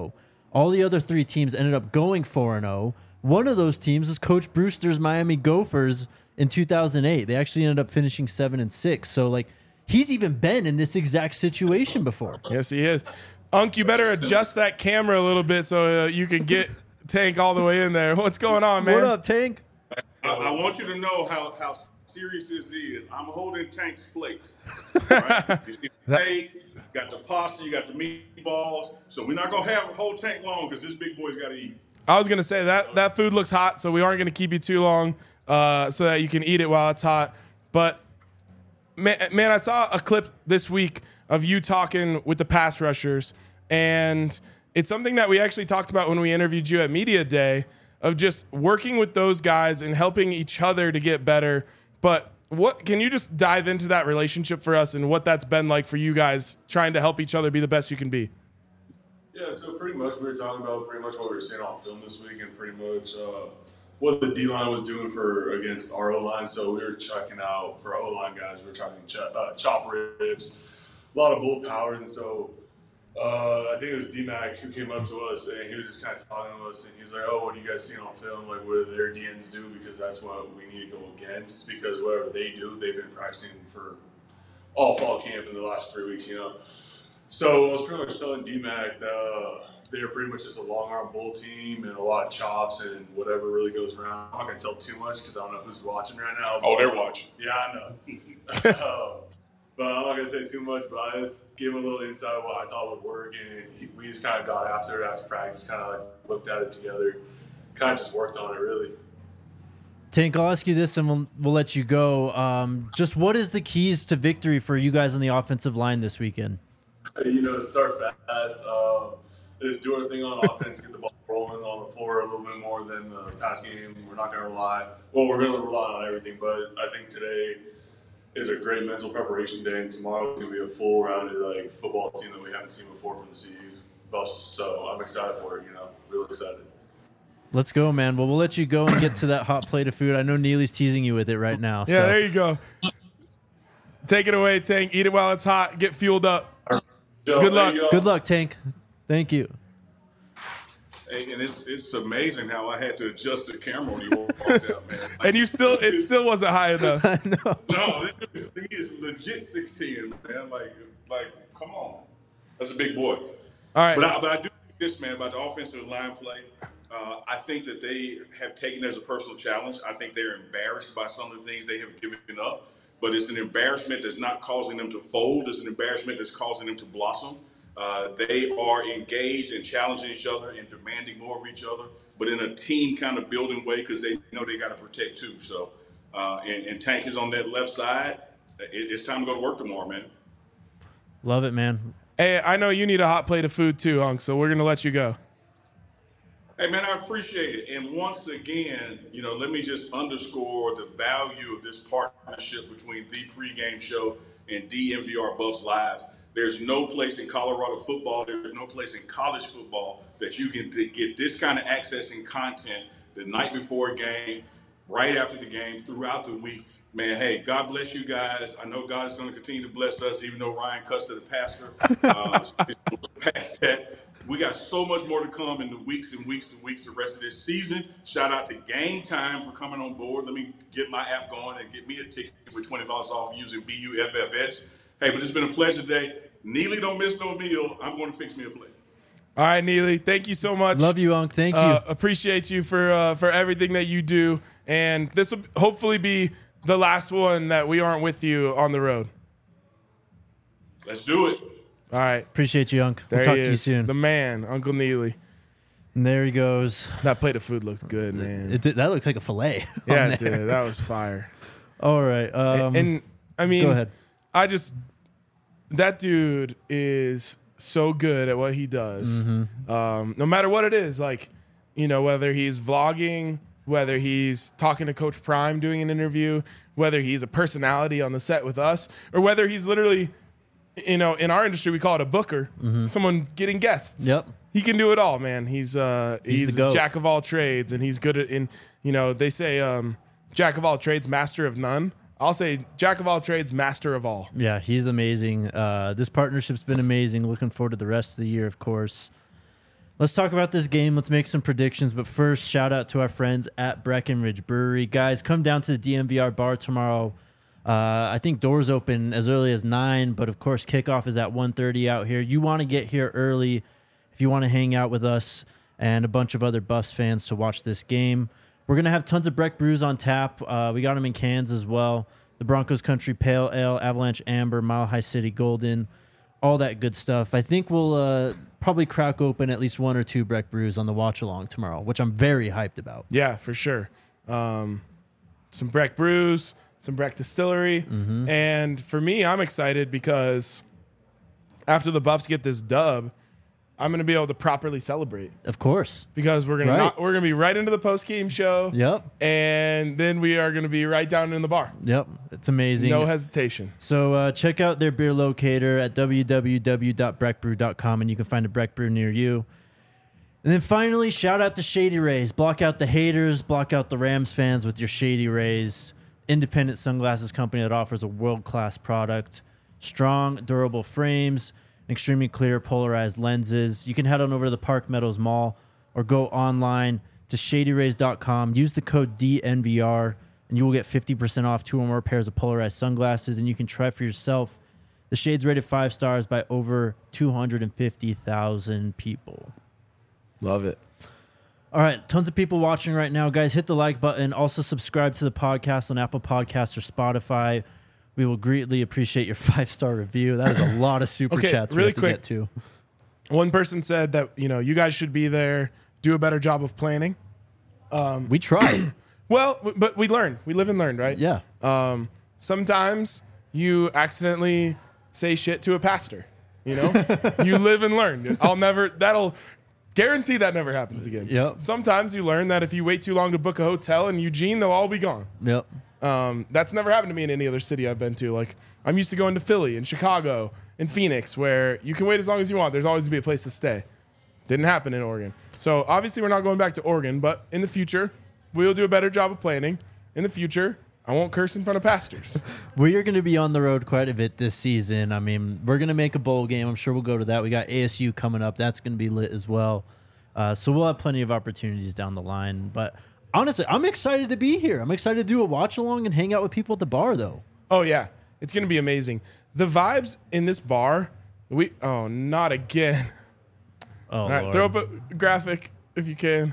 All the other 3 teams ended up going 4-0. One of those teams was Coach Brewster's Miami Gophers in 2008. They actually ended up finishing 7-6. So, like, he's even been in this exact situation before. Yes, he is. Unc, you better adjust that camera a little bit so you can get Tank all the way in there. What's going on, man? What up, Tank? I want you to know how serious this is. I'm holding Tank's plate. Right? You see the plate, you got the pasta, you got the meatballs. So we're not going to have a whole tank long because this big boy's got to eat. I was going to say that food looks hot, so we aren't going to keep you too long so that you can eat it while it's hot. But, man, I saw a clip this week of you talking with the pass rushers, and it's something that we actually talked about when we interviewed you at Media Day, of just working with those guys and helping each other to get better. But what can you just dive into that relationship for us and what that's been like for you guys trying to help each other be the best you can be? Yeah, so pretty much we were talking about pretty much what we were seeing on film this week and pretty much what the D-line was doing against our O-line. So we were checking out, for our O-line guys, we were checking chop ribs, a lot of bull powers. And so I think it was D-Mac who came up to us and he was just kind of talking to us and he was like, oh, what do you guys see on film? Like, what do their DNs do? Because that's what we need to go against, because whatever they do, they've been practicing for all fall camp in the last 3 weeks, you know. So I was pretty much telling D-Mac that they're pretty much just a long arm bull team and a lot of chops and whatever really goes around. I'm not going to tell too much because I don't know who's watching right now. Oh, they're watching. Yeah, I know. But I'm not going to say too much, but I just gave him a little insight of what I thought would work. And we just kind of got after it after practice, kind of like looked at it together, kind of just worked on it really. Tank, I'll ask you this and we'll let you go. Just what is the keys to victory for you guys on the offensive line this weekend? You know, start fast, just do everything on offense, get the ball rolling on the floor a little bit more than the pass game. We're not going to we're going to rely on everything, but I think today is a great mental preparation day, and tomorrow is going to be a full-rounded like football team that we haven't seen before from the CU bus. So I'm excited for it, you know, really excited. Let's go, man. Well, we'll let you go and get to that hot plate of food. I know Neely's teasing you with it right now. Yeah, there you go. Take it away, Tank. Eat it while it's hot. Get fueled up. Good luck. Good luck, Tank. Thank you. Hey, and it's amazing how I had to adjust the camera when you walked out, man. And it still wasn't high enough. I know. No, he is legit 16, man. Like, come on. That's a big boy. All right. But I do think this, man, about the offensive line play. I think that they have taken it as a personal challenge. I think they're embarrassed by some of the things they have given up. But it's an embarrassment that's not causing them to fold. It's an embarrassment that's causing them to blossom. They are engaged and challenging each other and demanding more of each other, but in a team kind of building way because they know they got to protect too. So, and Tank is on that left side. It's time to go to work tomorrow, man. Love it, man. Hey, I know you need a hot plate of food too, Hunk, so we're going to let you go. Hey, man, I appreciate it. And once again, you know, let me just underscore the value of this partnership between the pregame show and DMVR Buffs Live. There's no place in Colorado football, there's no place in college football that you can get this kind of access and content the night before a game, right after the game, throughout the week. Man, hey, God bless you guys. I know God is going to continue to bless us, even though Ryan cuts to the pastor. Past that. We got so much more to come in the weeks and weeks and weeks the rest of this season. Shout out to Game Time for coming on board. Let me get my app going and get me a ticket with $20 off using BUFFS. Hey, but it's been a pleasure today. Neely, don't miss no meal. I'm going to fix me a plate. All right, Neely, thank you so much. Love you, Unc. Thank you. Appreciate you for everything that you do. And this will hopefully be the last one that we aren't with you on the road. Let's do it. All right. Appreciate you, Unc. We'll There talk he to you is, soon. the man, Uncle Neely. And there he goes. That plate of food looked good, man. That looks like a fillet. Yeah, it did. That was fire. All right. And I mean, go ahead. That dude is so good at what he does. Mm-hmm. No matter what it is, like, you know, whether he's vlogging, whether he's talking to Coach Prime doing an interview, whether he's a personality on the set with us, or whether he's literally, you know, in our industry we call it a booker, someone getting guests. Yep. He can do it all, man. He's a jack of all trades, and he's good at, you know, they say jack of all trades, master of none. I'll say jack of all trades, master of all. Yeah, he's amazing. This partnership's been amazing. Looking forward to the rest of the year, of course. Let's talk about this game. Let's make some predictions. But first, shout out to our friends at Breckenridge Brewery. Guys, come down to the DMVR bar tomorrow. I think doors open as early as 9, but of course, kickoff is at 1:30 out here. You want to get here early if you want to hang out with us and a bunch of other Buffs fans to watch this game. We're going to have tons of Breck brews on tap. We got them in cans as well. The Broncos Country Pale Ale, Avalanche Amber, Mile High City Golden, all that good stuff. I think we'll probably crack open at least 1 or 2 Breck brews on the watch along tomorrow, which I'm very hyped about. Yeah, for sure. Some Breck brews, some Breck distillery. And for me, I'm excited because after the Buffs get this dub, I'm going to be able to properly celebrate. Of course. Because we're going to be right into the post-game show. Yep. And then we are going to be right down in the bar. Yep. It's amazing. No hesitation. So check out their beer locator at www.breckbrew.com, and you can find a Breck brew near you. And then finally, shout out to Shady Rays. Block out the haters, block out the Rams fans with your Shady Rays. Independent sunglasses company that offers a world-class product. Strong, durable frames, extremely clear polarized lenses. You can head on over to the Park Meadows Mall or go online to shadyrays.com. Use the code DNVR, and you will get 50% off 2 or more pairs of polarized sunglasses, and you can try for yourself. The shade's rated 5 stars by over 250,000 people. Love it. All right, tons of people watching right now. Guys, hit the like button. Also subscribe to the podcast on Apple Podcasts or Spotify. We will greatly appreciate your 5-star review. That is a lot of super chats really we have to quick. get to. One person said that, you guys should be there, do a better job of planning. We tried. Well, but we learn. We live and learn, right? Yeah. Sometimes you accidentally say shit to a pastor. You live and learn. That'll guarantee that never happens again. Yep. Sometimes you learn that if you wait too long to book a hotel in Eugene, they'll all be gone. Yep. That's never happened to me in any other city I've been to. Like, I'm used to going to Philly and Chicago and Phoenix, where you can wait as long as you want. There's always going to be a place to stay. Didn't happen in Oregon. So obviously we're not going back to Oregon, but in the future, we'll do a better job of planning. In the future, I won't curse in front of pastors. We are going to be on the road quite a bit this season. I mean, we're going to make a bowl game. I'm sure we'll go to that. We got ASU coming up. That's going to be lit as well. So we'll have plenty of opportunities down the line. But honestly, I'm excited to be here. I'm excited to do a watch along and hang out with people at the bar, though. Oh, yeah. It's going to be amazing. The vibes in this bar, not again. Oh, All right, Lord. throw up a graphic if you can.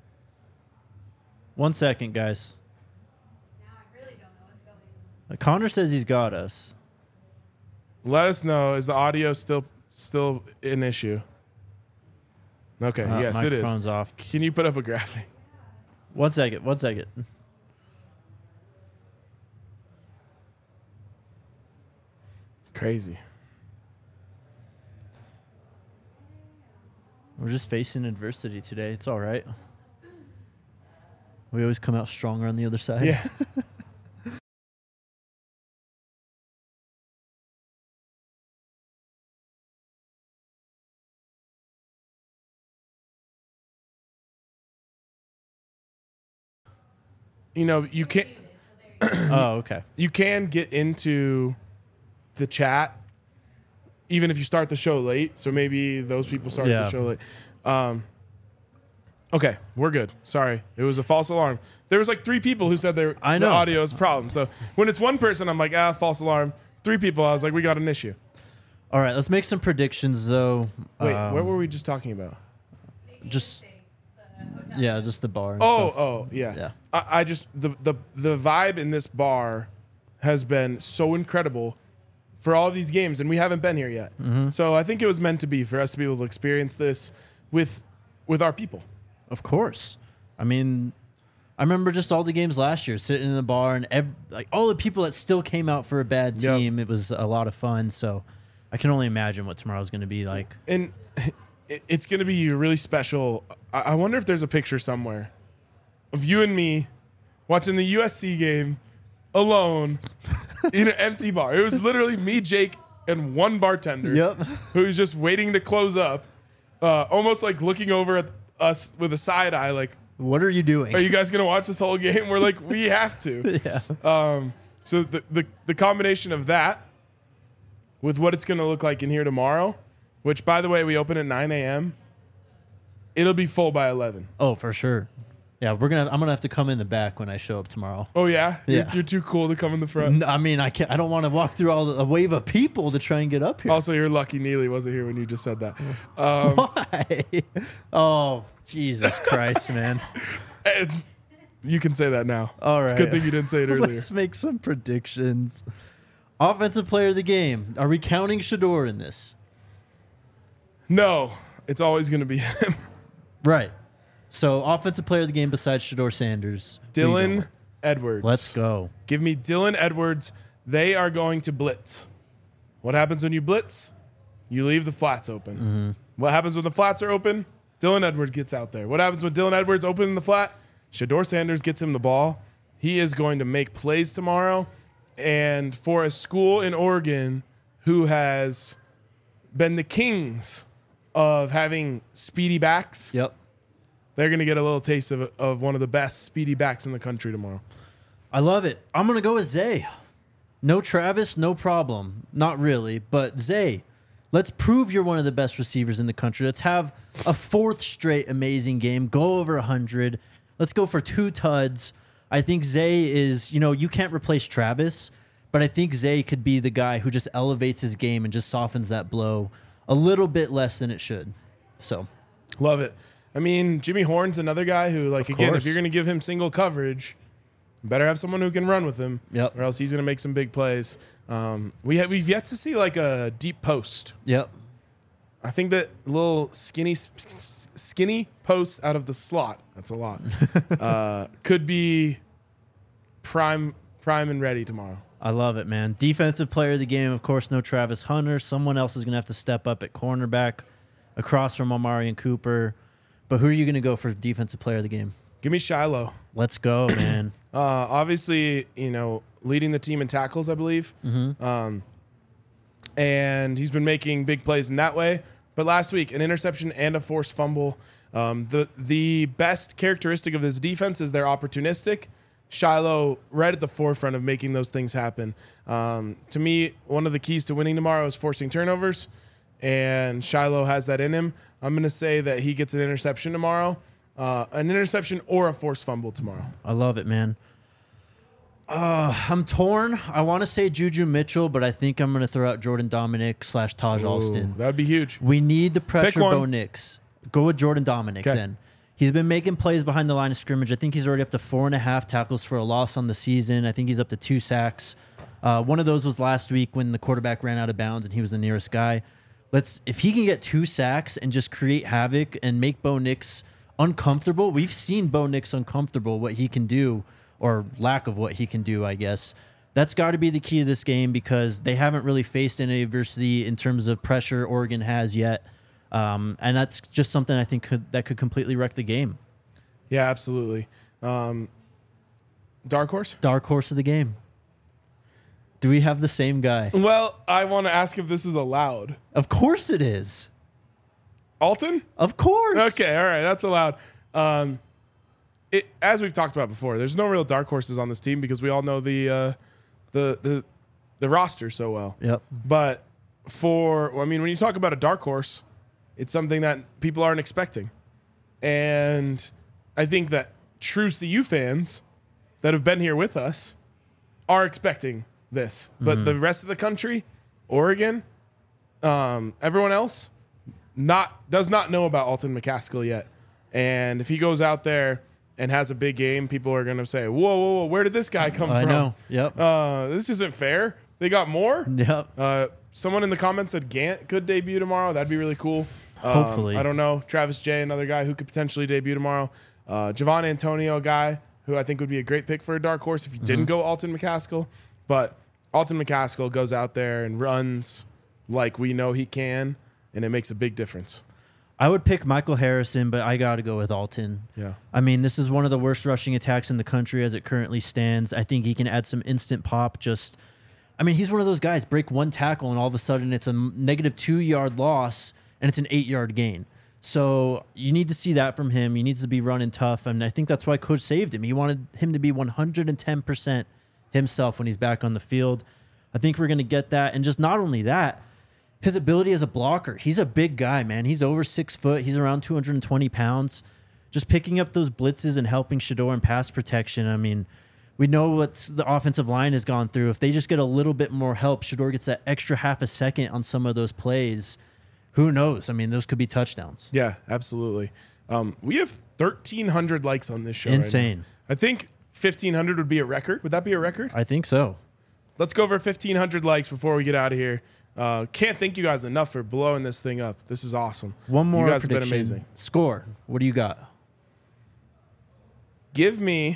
1 second, guys. Now I really don't know what's going on. Connor says he's got us. Let us know. Is the audio still an issue? Okay, yes, it is. Microphone's off. Can you put up a graphic? 1 second. Crazy. We're just facing adversity today. It's all right. We always come out stronger on the other side. Yeah. You can't. Oh, okay. You can get into the chat even if you start the show late. So maybe those people started the show late. Okay, we're good. Sorry, it was a false alarm. There was like 3 people who said the audio is a problem. So when it's one person, I'm like, false alarm. 3 people, I was like, we got an issue. All right, let's make some predictions, though. Wait, what were we just talking about? Just the bar. And stuff. Yeah. I just the vibe in this bar has been so incredible for all of these games, and we haven't been here yet. Mm-hmm. So I think it was meant to be for us to be able to experience this with our people. Of course. I mean, I remember just all the games last year, sitting in the bar, and all the people that still came out for a bad team. It was a lot of fun. So I can only imagine what tomorrow's going to be like. And it's going to be really special. I wonder if there's a picture somewhere of you and me watching the USC game alone in an empty bar. It was literally me, Jake, and one bartender who was just waiting to close up, almost like looking over at us with a side eye like, what are you doing? Are you guys going to watch this whole game? We're like, we have to. Yeah. So the combination of that with what it's going to look like in here tomorrow, which, by the way, we open at 9 a.m., it'll be full by 11. Oh, for sure. Yeah, I'm gonna have to come in the back when I show up tomorrow. Oh yeah, Yeah. You're too cool to come in the front. I mean, I can't. I don't want to walk through a wave of people to try and get up here. Also, you're lucky Neely wasn't here when you just said that. Why? Oh, Jesus Christ, man! You can say that now. All right. It's a good thing you didn't say it earlier. Let's make some predictions. Offensive player of the game. Are we counting Shador in this? No, it's always going to be him. Right. So, offensive player of the game besides Shador Sanders. Who you going Dylan with? Edwards. Let's go. Give me Dylan Edwards. They are going to blitz. What happens when you blitz? You leave the flats open. Mm-hmm. What happens when the flats are open? Dylan Edwards gets out there. What happens when Dylan Edwards opening the flat? Shador Sanders gets him the ball. He is going to make plays tomorrow. And for a school in Oregon who has been the kings of having speedy backs, Yep. they're going to get a little taste of one of the best speedy backs in the country tomorrow. I love it. I'm going to go with Zay. No Travis, no problem. Not really, but Zay. Let's prove you're one of the best receivers in the country. Let's have a fourth straight amazing game. Go over 100. Let's go for 2 tuds. I think Zay is, you can't replace Travis, but I think Zay could be the guy who just elevates his game and just softens that blow a little bit less than it should. So, Love it. I mean, Jimmy Horn's another guy who, like, again, course. if you're going to give him single coverage, you better have someone who can run with him, Yep. or else he's going to make some big plays. We've yet to see, like, a deep post. yep. I think that little skinny post out of the slot, that's a lot, could be prime and ready tomorrow. I love it, man. Defensive player of the game, of course, no Travis Hunter. Someone else is going to have to step up at cornerback across from Amarian Cooper. But who are you going to go for defensive player of the game? Give me Shiloh. Let's go, man. Obviously, leading the team in tackles, I believe. Mm-hmm. And he's been making big plays in that way. But last week, an interception and a forced fumble. The best characteristic of this defense is they're opportunistic. Shiloh right at the forefront of making those things happen. To me, one of the keys to winning tomorrow is forcing turnovers, and Shiloh has that in him. I'm going to say that he gets an interception tomorrow, an interception or a forced fumble tomorrow. I love it, man. I'm torn. I want to say Juju Mitchell, but I think I'm going to throw out Jordan Dominic / Taj Alston. That would be huge. We need the pressure one. Bo Nix. Go with Jordan Dominic 'Kay. then. He's been making plays behind the line of scrimmage. I think he's already up to 4.5 tackles for a loss on the season. I think he's up to 2 sacks. One of those was last week when the quarterback ran out of bounds and he was the nearest guy. If he can get 2 sacks and just create havoc and make Bo Nix uncomfortable. We've seen Bo Nix uncomfortable, what he can do, or lack of what he can do, I guess. That's got to be the key to this game because they haven't really faced any adversity in terms of pressure Oregon has yet. And that's just something I think could completely wreck the game. Yeah, absolutely. Dark horse? Dark horse of the game. Do we have the same guy? Well, I want to ask if this is allowed. Of course it is. Alton? Of course. Okay, all right, that's allowed. As we've talked about before, there's no real dark horses on this team because we all know the roster so well. Yep. But when you talk about a dark horse, it's something that people aren't expecting. And I think that true CU fans that have been here with us are expecting this. But the rest of the country, Oregon, everyone else, does not know about Alton McCaskill yet. And if he goes out there and has a big game, people are going to say, whoa, where did this guy come from? I know. Yep. This isn't fair. They got more? Yep. Someone in the comments said Gant could debut tomorrow. That'd be really cool. Hopefully. I don't know. Travis J, another guy who could potentially debut tomorrow. Javon Antonio, a guy who I think would be a great pick for a dark horse if you didn't go Alton McCaskill. But Alton McCaskill goes out there and runs like we know he can, and it makes a big difference. I would pick Michael Harrison, but I got to go with Alton. Yeah. I mean, this is one of the worst rushing attacks in the country as it currently stands. I think he can add some instant pop. He's one of those guys, break one tackle, and all of a sudden it's a negative 2-yard loss, and it's an 8-yard gain. So you need to see that from him. He needs to be running tough, and I think that's why Coach saved him. He wanted him to be 110% himself when he's back on the field. I think we're going to get that. And just not only that, his ability as a blocker. He's a big guy, man. He's over 6 foot. He's around 220 pounds. Just picking up those blitzes and helping Shedeur in pass protection. I mean, we know what the offensive line has gone through. If they just get a little bit more help, Shedeur gets that extra half a second on some of those plays. Who knows? I mean, those could be touchdowns. Yeah, absolutely. We have 1,300 likes on this show. Insane. Right now. I think 1,500 would be a record. Would that be a record? I think so. Let's go over 1,500 likes before we get out of here. Can't thank you guys enough for blowing this thing up. This is awesome. One more You guys prediction. have been amazing. Score. What do you got? Give me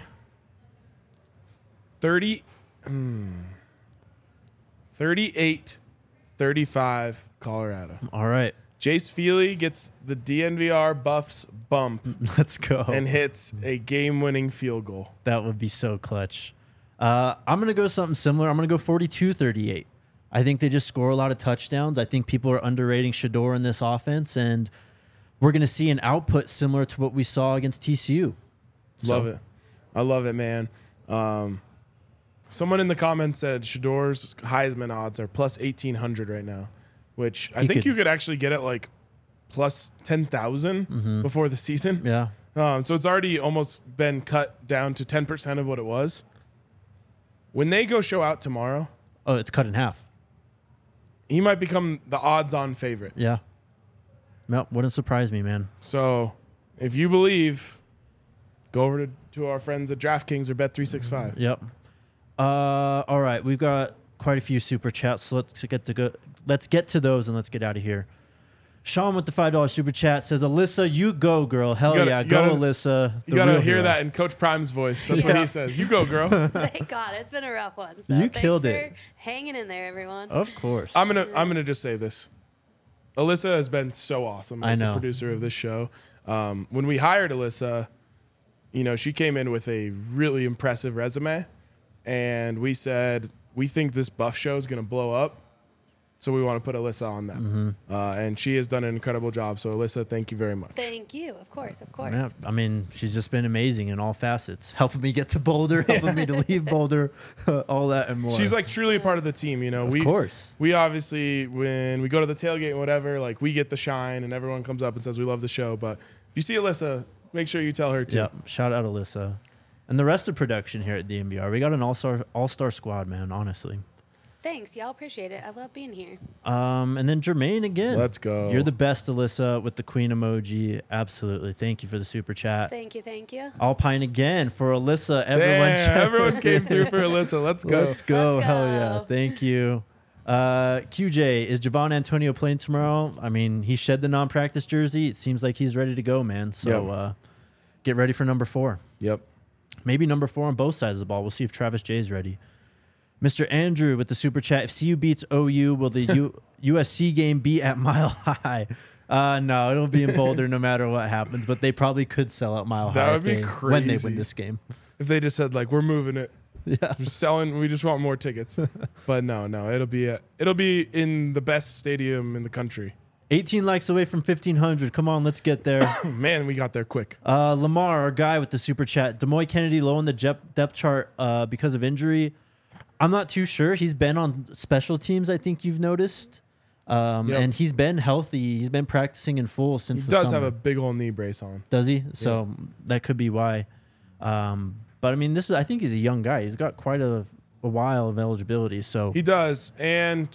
38-35 Colorado. All right. Jace Feely gets the DNVR Buffs bump Let's go. and hits a game-winning field goal. That would be so clutch. I'm going to go something similar. I'm going to go 42-38. I think they just score a lot of touchdowns. I think people are underrating Shedeur in this offense, and we're going to see an output similar to what we saw against TCU. Love it. I love it, man. Someone in the comments said Shedeur's Heisman odds are plus 1,800 right now, which I think you could actually get at like plus 10,000 before the season. Yeah. So it's already almost been cut down to 10% of what it was. When they go show out tomorrow, Oh, it's cut in half. he might become the odds-on favorite. Yeah. No, wouldn't surprise me, man. So if you believe, go over to our friends at DraftKings or Bet365. Yep. All right, we've got quite a few super chats, so let's get to those and let's get out of here. Sean with the $5 super chat says, "Alyssa, you go, girl. Hell You gotta- yeah, you go, gotta- Alyssa." You got to real hear hero. that in Coach Prime's voice. That's what he says. You go, girl. Thank God, it's been a rough one. So You thanks killed for it. hanging in there, everyone. Of course. I'm gonna just say this. Alyssa has been so awesome as I know. the producer of this show. When we hired Alyssa, she came in with a really impressive resume, and we said we think this Buff show is gonna blow up, so we want to put Alyssa on that. And she has done an incredible job. So Alyssa, thank you very much. Thank you. Of course. Yeah, I mean, she's just been amazing in all facets, helping me get to Boulder, helping me to leave Boulder, all that and more. She's like truly a part of the team. of course. We obviously, when we go to the tailgate and whatever, like we get the shine and everyone comes up and says we love the show. But if you see Alyssa, make sure you tell her too. Yep. Shout out Alyssa. And the rest of production here at DNVR. We got an all-star squad, man, honestly. Thanks. Y'all appreciate it. I love being here. And then Jermaine again. Let's go. You're the best, Alyssa, with the queen emoji. Absolutely. Thank you for the super chat. Thank you. Thank you. Alpine again for Alyssa. Everyone came through for Alyssa. Let's go. Let's go. Let's Hell go. yeah. Thank you. QJ, is Javon Antonio playing tomorrow? I mean, he shed the non-practice jersey. It seems like he's ready to go, man. So get ready for number 4. Yep. Maybe number 4 on both sides of the ball. We'll see if Travis J is ready. Mr. Andrew with the super chat. If CU beats OU, will the USC game be at Mile High? No, it'll be in Boulder no matter what happens. But they probably could sell out Mile That High would be when they crazy. win this game. If they just said like we're moving it, Yeah. we're selling, we just want more tickets. But no, it'll be in the best stadium in the country. 18 likes away from 1,500. Come on, let's get there. Man, we got there quick. Lamar, our guy with the super chat. Demoy Kennedy low on the depth chart because of injury. I'm not too sure. He's been on special teams, I think you've noticed. And he's been healthy. He's been practicing in full since He the does summer. have a big old knee brace on. Does he? So that could be why. But I mean, I think he's a young guy. He's got quite a while of eligibility. So He does. And,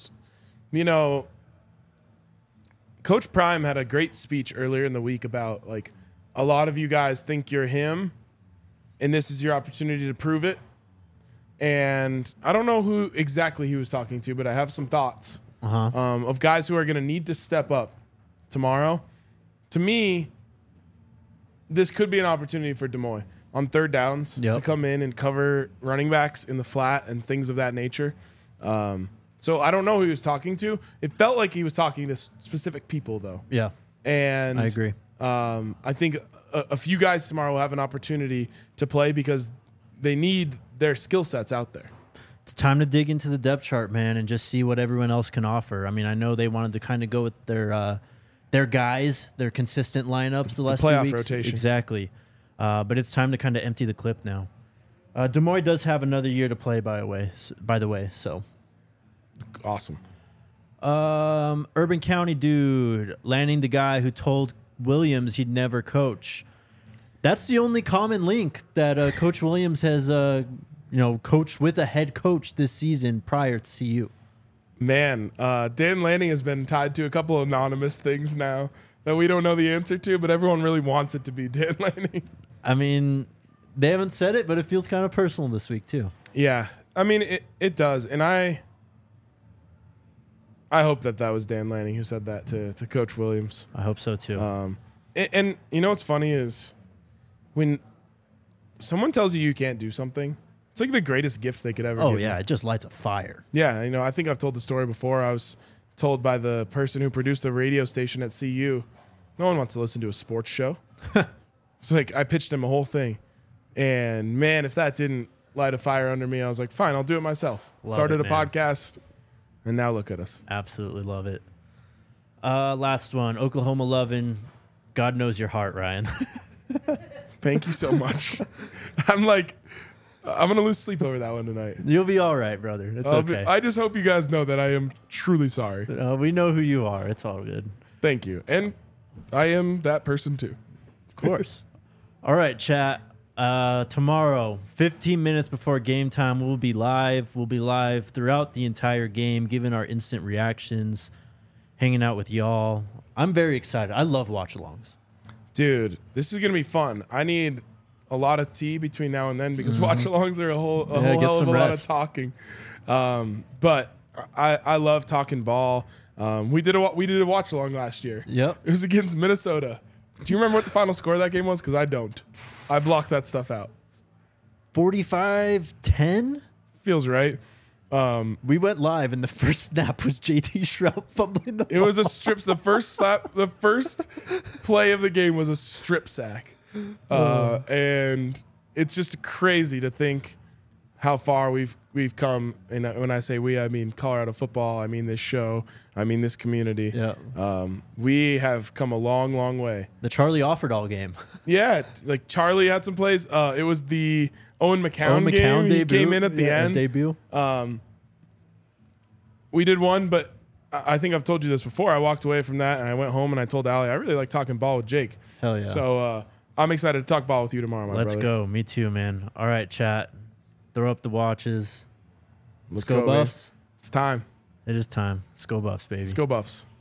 Coach Prime had a great speech earlier in the week about, like, a lot of you guys think you're him, and this is your opportunity to prove it. And I don't know who exactly he was talking to, but I have some thoughts of guys who are going to need to step up tomorrow. To me, this could be an opportunity for Demoy on third downs to come in and cover running backs in the flat and things of that nature. So I don't know who he was talking to. It felt like he was talking to specific people, though. yeah, And I agree. I think a few guys tomorrow will have an opportunity to play because they need their skill sets out there. It's time to dig into the depth chart, man, and just see what everyone else can offer. I mean, I know they wanted to kind of go with their guys, their consistent lineups the last few playoff weeks. rotation. Exactly. But it's time to kind of empty the clip now. Demoy does have another year to play, by the way. So Awesome. Urban County dude landing the guy who told Williams he'd never coach. That's the only common link that Coach Williams has, coached with a head coach this season prior to CU. Man, Dan Lanning has been tied to a couple of anonymous things now that we don't know the answer to, but everyone really wants it to be Dan Lanning. I mean, they haven't said it, but it feels kind of personal this week too. Yeah, I mean, it does. And I hope that was Dan Lanning who said that to Coach Williams. I hope so too. And you know what's funny is when someone tells you can't do something, it's like the greatest gift they could ever give yeah, you. it just lights a fire. Yeah, I think I've told the story before. I was told by the person who produced the radio station at CU, no one wants to listen to a sports show. It's like I pitched him a whole thing. And man, if that didn't light a fire under me, I was like, fine, I'll do it myself. Started a podcast, and now look at us. Absolutely love it. Last one, Oklahoma loving. God knows your heart, Ryan. Thank you so much. I'm going to lose sleep over that one tonight. You'll be all right, brother. It's okay. I just hope you guys know that I am truly sorry. We know who you are. It's all good. Thank you. And I am that person too. Of course. All right, chat. Tomorrow, 15 minutes before game time, we'll be live. We'll be live throughout the entire game, giving our instant reactions, hanging out with y'all. I'm very excited. I love watch-alongs. Dude, this is going to be fun. I need a lot of tea between now and then because watch-alongs are a whole hell of a lot of talking. But I love talking ball. We did a watch-along last year. Yep. It was against Minnesota. Do you remember what the final score of that game was? Because I don't. I blocked that stuff out. 45-10? Feels right. We went live, and the first snap was JT Shrout fumbling the ball. It was a strip. The first play of the game was a strip sack. And it's just crazy to think how far we've come. And when I say we, I mean Colorado football. I mean this show. I mean this community. Yeah. We have come a long, long way. The Charlie Offerdahl game. Yeah, like Charlie had some plays. It was the Owen McCown game. debut. He came in at the end. Debut. We did one, but I think I've told you this before. I walked away from that and I went home and I told Allie I really like talking ball with Jake. Hell yeah. So I'm excited to talk ball with you tomorrow, my Let's brother. go. Me too, man. All right, chat. Throw up the watches. Let's go go, man. Buffs. It's time. It is time. Let's go Buffs, baby. Let's go Buffs.